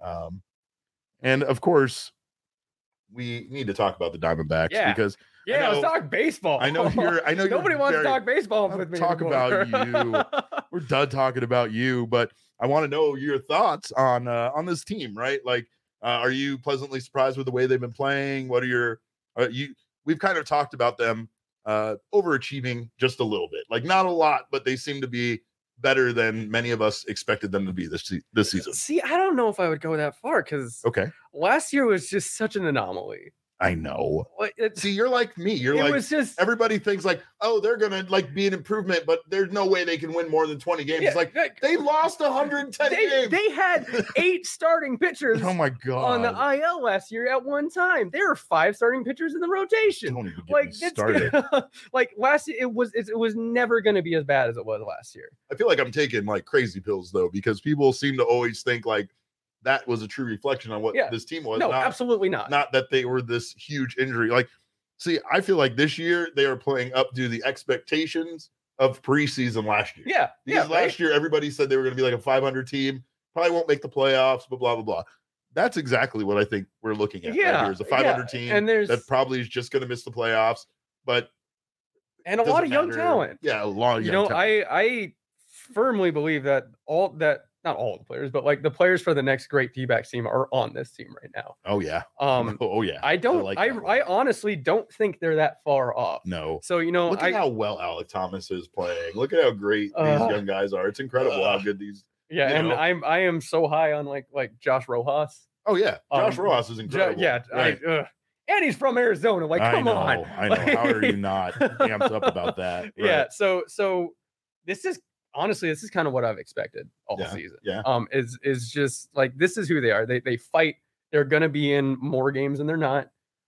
And of course, we need to talk about the Diamondbacks because let's talk baseball. I know nobody wants to talk baseball with me. Talk about you. We're done talking about you, but I want to know your thoughts on this team, right? Like, are you pleasantly surprised with the way they've been playing? What are your we've kind of talked about them overachieving just a little bit, like not a lot, but they seem to be better than many of us expected them to be this season. See, I don't know if I would go that far because last year was just such an anomaly. I know. See, you're like me. You're like, was just, everybody thinks like, oh, they're gonna like be an improvement, but there's no way they can win more than 20 games. It's like they lost 110 games. They had 8 starting pitchers. Oh my god! On the IL last year at one time, there were 5 starting pitchers in the rotation. Don't even get me started. Like last year, it was never gonna be as bad as it was last year. I feel like I'm taking like crazy pills though, because people seem to always think like that was a true reflection on what this team was. No, absolutely not. Not that they were this huge injury. Like, see, I feel like this year they are playing up to the expectations of preseason last year. Yeah. Because last year everybody said they were going to be like a 500 team, probably won't make the playoffs, but blah, blah, blah. That's exactly what I think we're looking at right here is a 500 team and that probably is just going to miss the playoffs, but and a lot of young talent. Yeah, a lot of young talent. I firmly believe that not all the players, but like the players for the next great D-backs team are on this team right now. Oh yeah. Oh yeah. I honestly don't think they're that far off. No. So look at how well Alek Thomas is playing. Look at how great these young guys are. It's incredible how good these. Yeah, and I am so high on like Josh Rojas. Oh yeah, Josh Rojas is incredible. Right. And he's from Arizona. Like, come on. I know. How are you not amped up about that? Right. Yeah. So this is. Honestly, this is kind of what I've expected all season. Yeah. Is just like this is who they are. They fight. They're gonna be in more games than they're not.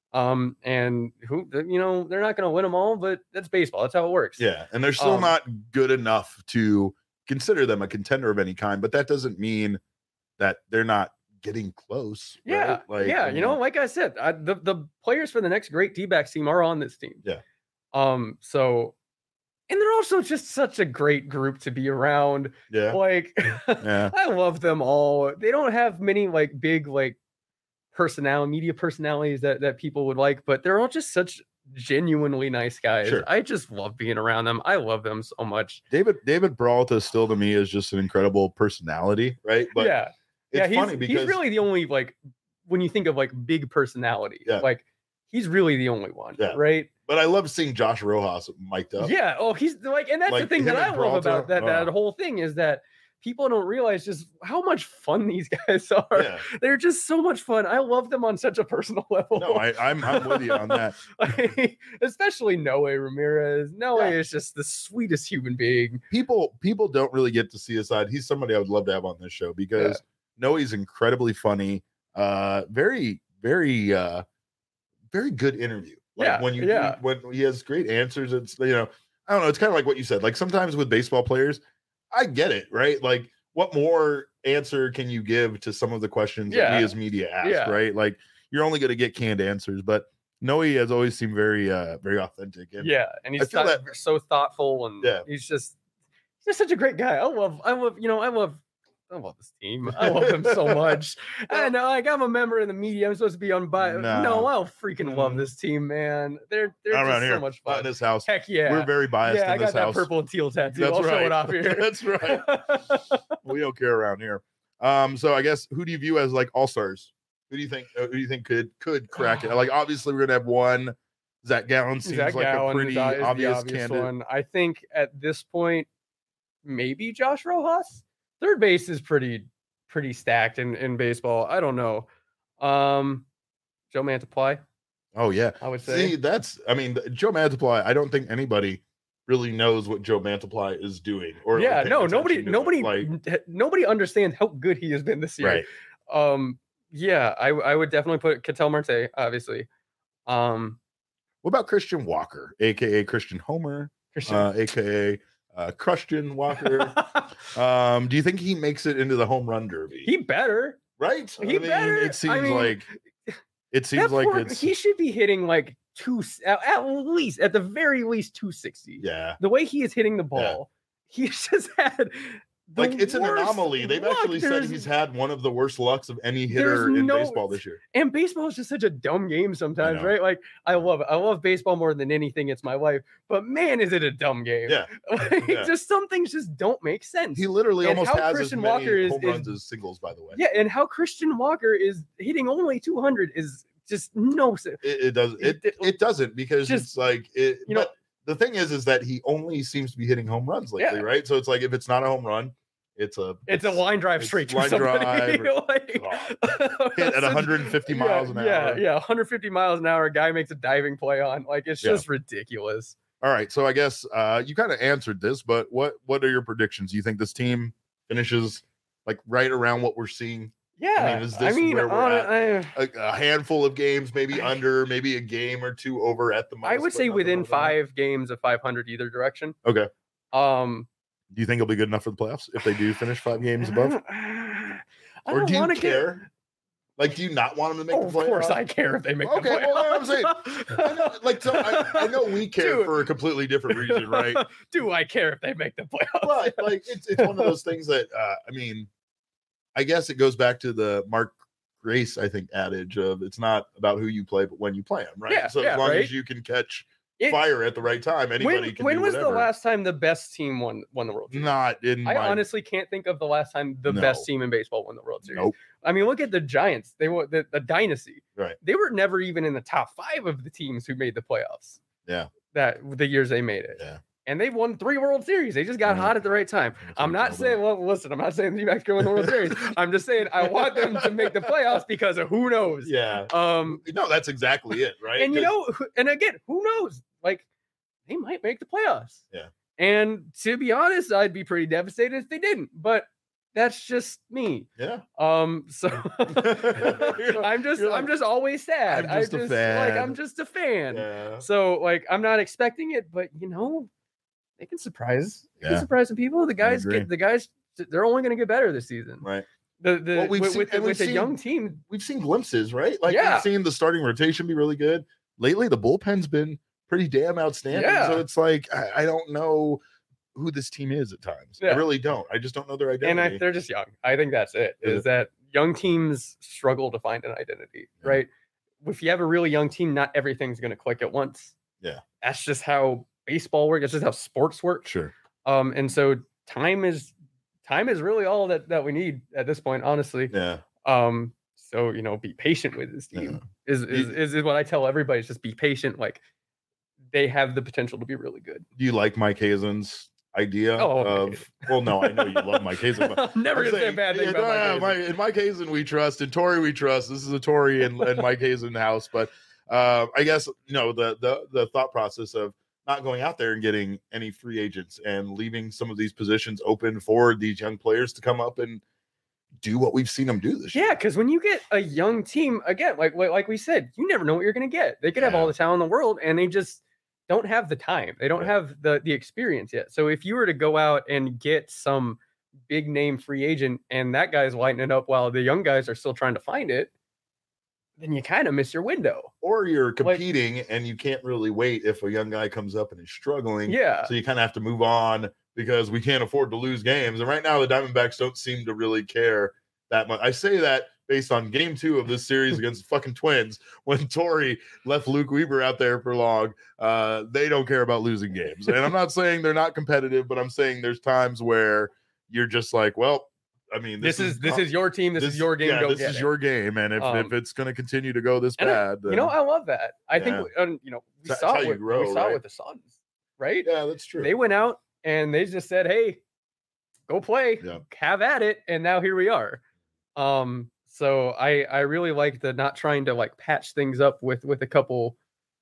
And who they're not gonna win them all, but that's baseball. That's how it works. Yeah, and they're still not good enough to consider them a contender of any kind. But that doesn't mean that they're not getting close. Yeah. Right? Like, like I said, the players for the next great D-backs team are on this team. Yeah. So. And they're also just such a great group to be around. Yeah. Like, yeah. I love them all. They don't have many like big like media personalities that people would like, but they're all just such genuinely nice guys. Sure. I just love being around them. I love them so much. David Peralta still to me is just an incredible personality, right? But yeah. It's funny because he's really the only like when you think of like big personality, like he's really the only one, right? But I love seeing Josh Rojas mic'd up. Yeah. Oh, he's like, and that's like the thing that I love about that whole thing is that people don't realize just how much fun these guys are. Yeah. They're just so much fun. I love them on such a personal level. No, I'm with you on that. Especially Noe Ramirez. Noe is just the sweetest human being. People don't really get to see his side. He's somebody I would love to have on this show because Noe's incredibly funny. Very, very, very good interview. Like when he has great answers, it's I don't know. It's kind of like what you said. Like sometimes with baseball players, I get it, right? Like, what more answer can you give to some of the questions that we as media ask, right? Like, you're only going to get canned answers, but Noe has always seemed very, very authentic. And and he's so thoughtful, and he's just such a great guy. I love this team. I love them so much. I know, like I'm a member of the media. I'm supposed to be unbiased. No, I'll freaking love this team, man. They're just so much fun. In this house, heck yeah, we're very biased. Yeah, in this I got house. that purple and teal tattoo. I'll show it off here. That's right. We don't care around here. So I guess who do you view as like all stars? Who do you think could crack it? Like obviously we're gonna have one. Zach Gallen seems like a pretty obvious candidate. One. I think at this point, maybe Josh Rojas. Third base is pretty stacked in baseball. I don't know. Joe Mantiply. Oh yeah, I would say. See, Joe Mantiply. I don't think anybody really knows what Joe Mantiply is doing. Or nobody understands how good he has been this year. Right. I would definitely put Ketel Marte, obviously. What about Christian Walker, aka Christian Homer, aka Christian Walker? Do you think he makes it into the home run derby? He better, right? Better. It seems like he should be hitting like at the very least 260. Yeah, the way he is hitting the ball, he's just had it's an anomaly. They've actually said he's had one of the worst lucks of any hitter in baseball this year. And baseball is just such a dumb game sometimes, right? Like I love it. I love baseball more than anything. It's my life. But man, is it a dumb game? Yeah. Just some things just don't make sense. He literally almost has Christian as many Walker home runs as singles, by the way. Yeah, and how Christian Walker is hitting only 200 is just no sense. It doesn't because it's like it. The thing is that he only seems to be hitting home runs lately, right? So it's like if it's not a home run, it's a line drive straight to somebody. Hit at 150 miles an hour. Yeah, 150 miles an hour. A guy makes a diving play on. Like it's just ridiculous. All right, so I guess you kind of answered this, but what are your predictions? Do you think this team finishes like right around what we're seeing? Yeah, is this where we're at? A handful of games, maybe under, maybe a game or two over at the most. I would say within 5 games of 500 either direction. Okay. Do you think it'll be good enough for the playoffs if they do finish 5 games above? Or do you care? Like, do you not want them to make the playoffs? Of course I care if they make the playoffs. Okay, well, I'm saying. I know we care for a completely different reason, right? Do I care if they make the playoffs? But, like, it's one of those things that, I guess it goes back to the Mark Grace, I think, adage of it's not about who you play, but when you play them, right? Yeah, so as long as you can catch fire at the right time, anybody can do whatever. When was the last time the best team won the World Series? Honestly can't think of the last time the best team in baseball won the World Series. Nope. I mean, look at the Giants. They were the dynasty. Right. They were never even in the top 5 of the teams who made the playoffs. Yeah. The years they made it. Yeah. And they won 3 World Series. They just got hot at the right time. I'm not saying the D-backs can win the World Series. I'm just saying I want them to make the playoffs because of who knows. Yeah. No, that's exactly it, right? And and again, who knows? Like, they might make the playoffs. Yeah. And to be honest, I'd be pretty devastated if they didn't. But that's just me. Yeah. So I'm just always sad. I'm just a fan. I'm just a fan. Yeah. So I'm not expecting it, but they can surprise. They can surprise some people. The guys they're only going to get better this season. Right. With a young team, we've seen glimpses, right? Like we've seen the starting rotation be really good. Lately, the bullpen's been pretty damn outstanding. Yeah. So it's like I don't know who this team is at times. I really don't. I just don't know their identity. And they're just young. I think that's it. Is that young teams struggle to find an identity, right? If you have a really young team, not everything's going to click at once. Yeah, that's just how baseball works. That's just how sports work. Sure. And so time is really all that we need at this point, honestly. Yeah. So be patient with this team. Is what I tell everybody. Is just be patient. Like they have the potential to be really good. Do you like Mike Hazen's idea of? Well, no, I know you love Mike Hazen. But I'm never gonna say a bad thing about Mike Hazen. In Mike Hazen we trust, in Torey we trust. This is a Torey and Mike Hazen house. But I guess the thought process of not going out there and getting any free agents and leaving some of these positions open for these young players to come up and do what we've seen them do this year. Yeah, because when you get a young team, again, like we said, you never know what you're going to get. They could have all the talent in the world, and they just don't have the time. They don't have the experience yet. So if you were to go out and get some big name free agent, and that guy's lighting it up while the young guys are still trying to find it, then you kind of miss your window. Or you're competing and you can't really wait if a young guy comes up and is struggling. Yeah. So you kind of have to move on because we can't afford to lose games. And right now the Diamondbacks don't seem to really care that much. I say that based on game 2 of this series against the fucking Twins, when Torey left Luke Weaver out there for long. They don't care about losing games. And I'm not saying they're not competitive, but I'm saying there's times where you're just like, well, I mean, this is your team. This is your game. Yeah, this is your game. And if it's going to continue to go this bad, then, I love that. I think, we saw it with the Suns, right? Yeah, that's true. They went out and they just said, hey, go play, have at it. And now here we are. So I really like the not trying to like patch things up with a couple,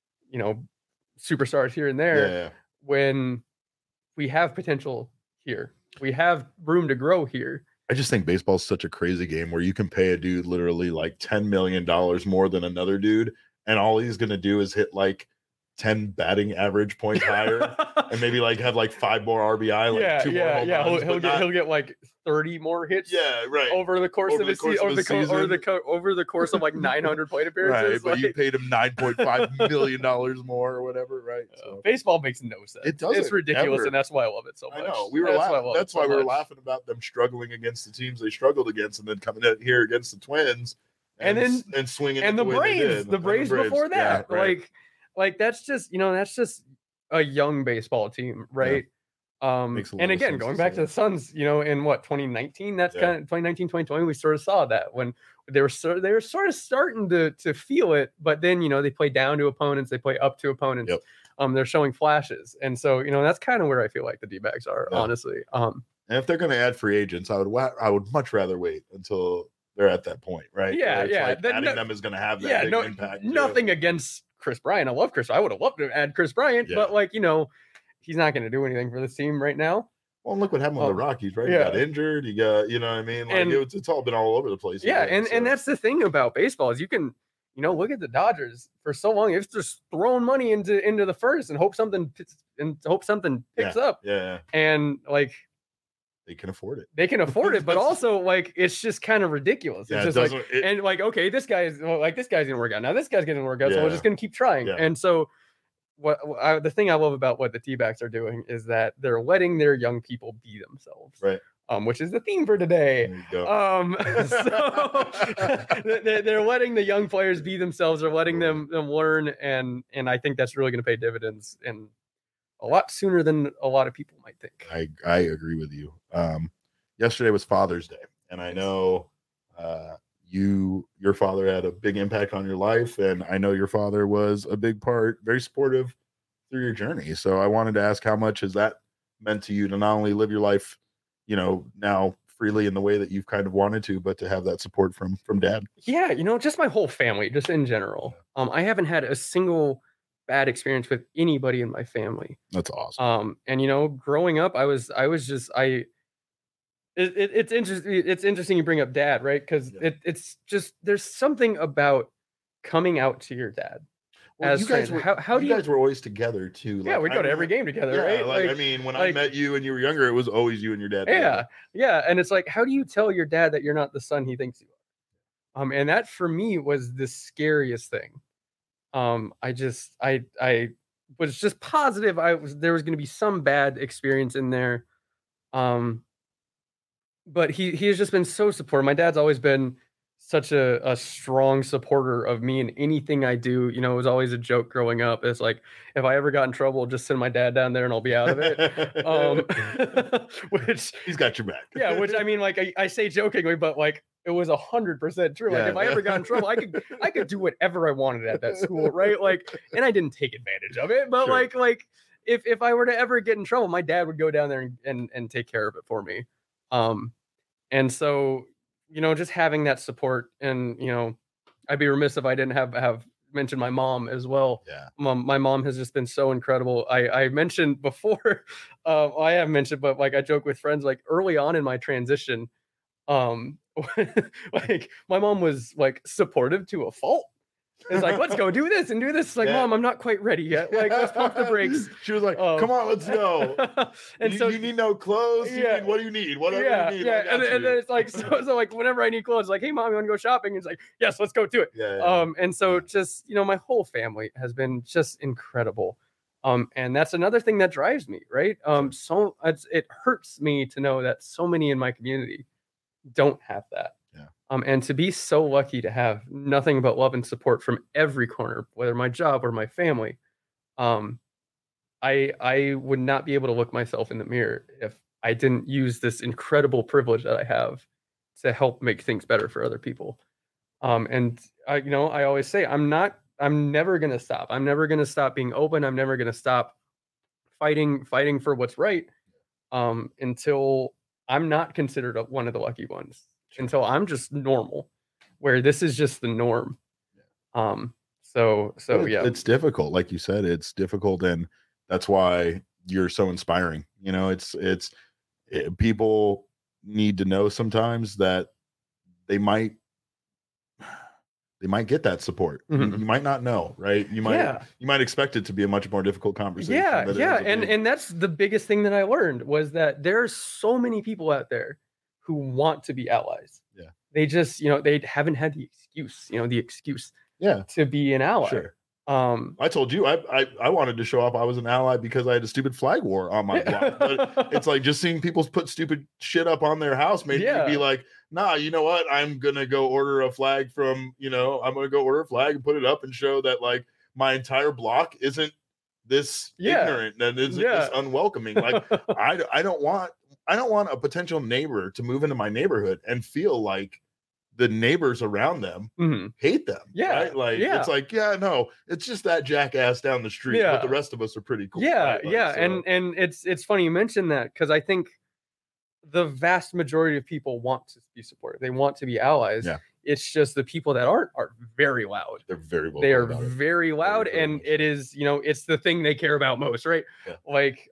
superstars here and there when we have potential here. We have room to grow here. I just think baseball's such a crazy game where you can pay a dude literally like $10 million more than another dude, and all he's going to do is hit like 10 batting average points higher and maybe like have like 5 more RBI, like 2 more home runs, he'll get like 30 more hits over the course of his season, over the course of like 900 plate appearances, right? But you paid him $9.5 million more or whatever, right? So baseball makes no sense. It doesn't. It's ridiculous, ever. And that's why I love it so much. I know. That's why we were laughing about them struggling against the teams they struggled against, and then coming in here against the Twins and swinging and the Braves before that, Like that's just a young baseball team, right? And again, going back to the Suns, in what 2019, that's kind of 2019, 2020, we sort of saw that when they were sort of starting to feel it, but then they play down to opponents, they play up to opponents. They're showing flashes, and so that's kind of where I feel like the D-backs are, honestly. And if they're going to add free agents, I would much rather wait until they're at that point, right? Adding them is going to have that big impact. Nothing against Chris Bryant. I love Chris. I would have loved to add Chris Bryant, but he's not going to do anything for this team right now. Well, look what happened with the Rockies, right? He got injured. He got, what I mean? Like it's all been all over the place. Yeah, and that's the thing about baseball is you can, look at the Dodgers for so long. It's just throwing money into the first and hope something picks up. Yeah. And like they can afford it. But also like it's just kind of ridiculous. It's just okay, this guy's gonna work out. Now this guy's gonna work out, so we're just gonna keep trying. Yeah. And so the thing I love about what the T-backs are doing is that they're letting their young people be themselves. Right. Which is the theme for today. So they're letting the young players be themselves. They're letting them learn, and I think that's really going to pay dividends and a lot sooner than a lot of people might think. I agree with you. Yesterday was Father's Day, and I know your father had a big impact on your life, and I know your father was a big part, very supportive through your journey. So I wanted to ask, how much has that meant to you to not only live your life, now freely in the way that you've kind of wanted to, but to have that support from Dad? Yeah, just my whole family, just in general. I haven't had a single bad experience with anybody in my family. That's awesome. And growing up, it's interesting. It's interesting you bring up Dad, right? Because it's just there's something about coming out to your dad. Well, you guys were always together too. Like, we go to every game together, right? Like I mean, when I met you and you were younger, it was always you and your dad. Yeah. And it's like, how do you tell your dad that you're not the son he thinks you are? And that for me was the scariest thing. I was just positive there was going to be some bad experience in there. But he has just been so supportive. My dad's always been such a strong supporter of me in anything I do. You know, it was always a joke growing up. It's like, if I ever got in trouble, just send my dad down there and I'll be out of it. Which he's got your back. Yeah, which I mean, like I say jokingly, but like it was 100% true. Like if I ever got in trouble, I could do whatever I wanted at that school, right? Like, and I didn't take advantage of it, but sure. like if I were to ever get in trouble, my dad would go down there and take care of it for me. And so, you know, just having that support, and, you know, I'd be remiss if I didn't have mentioned my mom as well. Yeah. My mom has just been so incredible. I mentioned before, I have mentioned, but like I joke with friends, like early on in my transition, like my mom was like supportive to a fault. It's like, let's go do this and do this. It's like, Mom, I'm not quite ready yet. Like, let's pump the brakes. She was like, come on, let's go. And you need no clothes. What do you need? Whatever you need. Yeah. And then it's like, so like whenever I need clothes, like, hey, Mom, you want to go shopping? And it's like, yes, let's go do it. And so just, you know, my whole family has been just incredible. And that's another thing that drives me, right? So it hurts me to know that so many in my community don't have that. And to be so lucky to have nothing but love and support from every corner, whether my job or my family, I would not be able to look myself in the mirror if I didn't use this incredible privilege that I have to help make things better for other people. And I always say, I'm never going to stop. I'm never going to stop being open. I'm never going to stop fighting for what's right, until I'm not considered one of the lucky ones. Until I'm just normal, where this is just the norm. So yeah, it's difficult. Like you said, it's difficult. And that's why you're so inspiring. You know, people need to know sometimes that they might get that support. Mm-hmm. You might not know, right? You might expect it to be a much more difficult conversation. Yeah. And that's the biggest thing that I learned, was that there are so many people out there who want to be allies. Yeah. They just, they haven't had the excuse to be an ally. Sure. I told you I wanted to show up. I was an ally because I had a stupid flag war on my block. But it's like, just seeing people put stupid shit up on their house made me be like, nah, you know what? I'm gonna go order a flag I'm gonna go order a flag and put it up and show that like my entire block isn't this ignorant and isn't this unwelcoming. Like I don't want a potential neighbor to move into my neighborhood and feel like the neighbors around them hate them. Yeah. Right? Like, it's like, no, it's just that jackass down the street. Yeah. But the rest of us are pretty cool. Yeah. Right? Like, yeah. So. And it's funny you mentioned that, because I think the vast majority of people want to be supported. They want to be allies. Yeah. It's just the people that aren't are very loud. They're very well. They are very loud, and it is, it's the thing they care about most, right? Yeah. Like,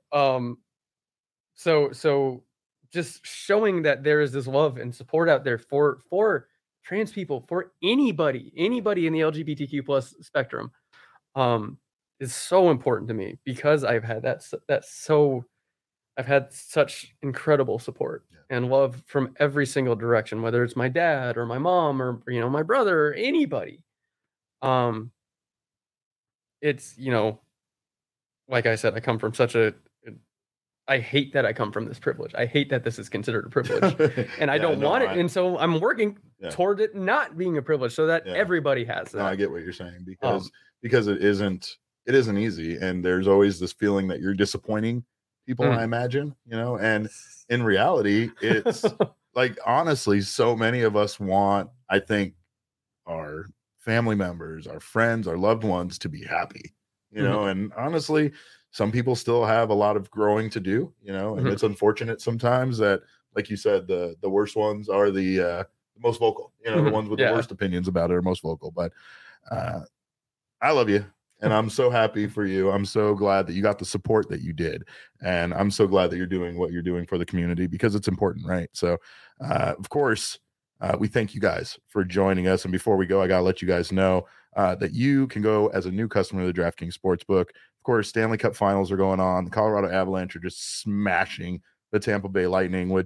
so just showing that there is this love and support out there for trans people, for anybody in the LGBTQ plus spectrum, is so important to me, because I've had I've had such incredible support and love from every single direction, whether it's my dad or my mom or, my brother or anybody. It's, like I said, I come from I hate that I come from this privilege. I hate that this is considered a privilege, and I don't want it. And so I'm working toward it not being a privilege, so that everybody has that. No, I get what you're saying, because it isn't easy. And there's always this feeling that you're disappointing people, I imagine, and in reality, it's like, honestly, so many of us want, I think, our family members, our friends, our loved ones to be happy, and honestly, some people still have a lot of growing to do, and it's unfortunate sometimes that, like you said, the worst ones are the most vocal, the ones with the worst opinions about it are most vocal. But I love you. And I'm so happy for you. I'm so glad that you got the support that you did. And I'm so glad that you're doing what you're doing for the community, because it's important, right? So, of course, we thank you guys for joining us. And before we go, I got to let you guys know that you can go as a new customer to the DraftKings Sportsbook. Of course, Stanley Cup finals are going on. The Colorado Avalanche are just smashing the Tampa Bay Lightning, which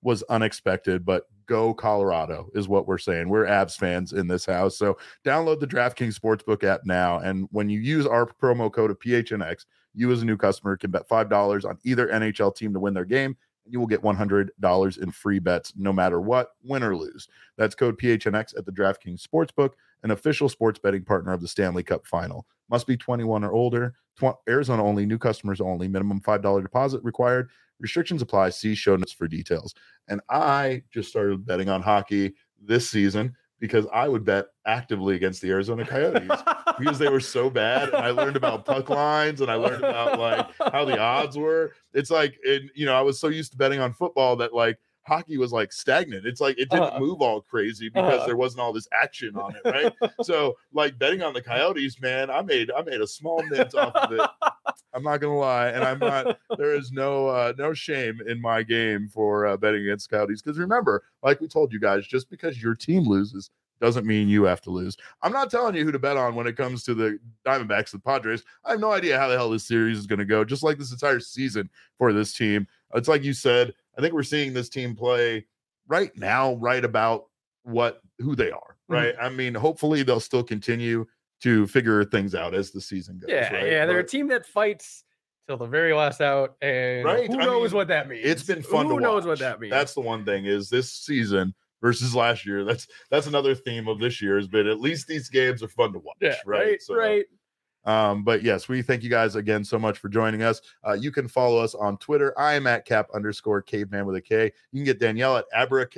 was unexpected, but go Colorado is what we're saying. We're Avs fans in this house. So download the DraftKings Sportsbook app now. And when you use our promo code of PHNX, you as a new customer can bet $5 on either NHL team to win their game. And you will get $100 in free bets no matter what, win or lose. That's code PHNX at the DraftKings Sportsbook, an official sports betting partner of the Stanley Cup Final. Must be 21 or older. Arizona only, new customers only. Minimum $5 deposit required. Restrictions apply. See show notes for details. And I just started betting on hockey this season because I would bet actively against the Arizona Coyotes because they were so bad. And I learned about puck lines and I learned about like how the odds were. It's like, I was so used to betting on football that like hockey was like stagnant. It's like it didn't move all crazy because there wasn't all this action on it, right? So like betting on the Coyotes, man, I made a small mint off of it. I'm not gonna lie, and I'm not. There is no shame in my game for betting against Coyotes because remember, like we told you guys, just because your team loses doesn't mean you have to lose. I'm not telling you who to bet on when it comes to the Diamondbacks and Padres. I have no idea how the hell this series is going to go. Just like this entire season for this team, it's like you said. I think we're seeing this team play right now, right about who they are, right? Mm-hmm. I mean, hopefully they'll still continue to figure things out as the season goes. Yeah, right? Yeah, they're a team that fights till the very last out, and who knows what that means? It's been fun to watch. Who knows what that means? That's the one thing is this season versus last year. That's another theme of this year has been at least these games are fun to watch. Yeah, right. So, right. But yes, we thank you guys again so much for joining us. You can follow us on Twitter. I am at @cap_caveman with a K. You can get Danielle at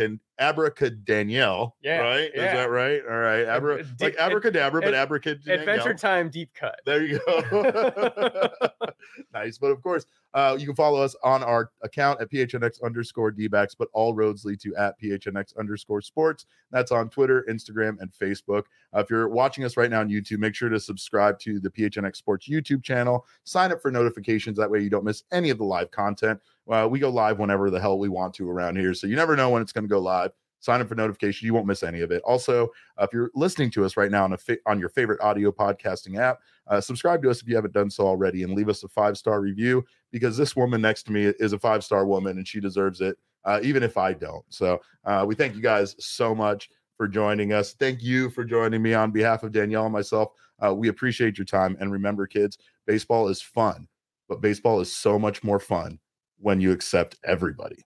Abracadanielle. Yeah, right? Yeah. Is that right? All right. Like abracadabra, but Abracadanielle. Adventure Time Deep Cut. There you go. Nice. But of course, you can follow us on our account at PHNX_DBacks, but all roads lead to at PHNX_sports. That's on Twitter, Instagram, and Facebook. If you're watching us right now on YouTube, make sure to subscribe to the PHNX Sports YouTube channel. Sign up for notifications. That way you don't miss any of the live content. We go live whenever the hell we want to around here. So you never know when it's going to go live. Sign up for notifications. You won't miss any of it. Also, if you're listening to us right now on your favorite audio podcasting app, subscribe to us if you haven't done so already and leave us a 5-star review because this woman next to me is a 5-star woman and she deserves it, even if I don't. So we thank you guys so much for joining us. Thank you for joining me on behalf of Danielle and myself. We appreciate your time. And remember, kids, baseball is fun, but baseball is so much more fun when you accept everybody.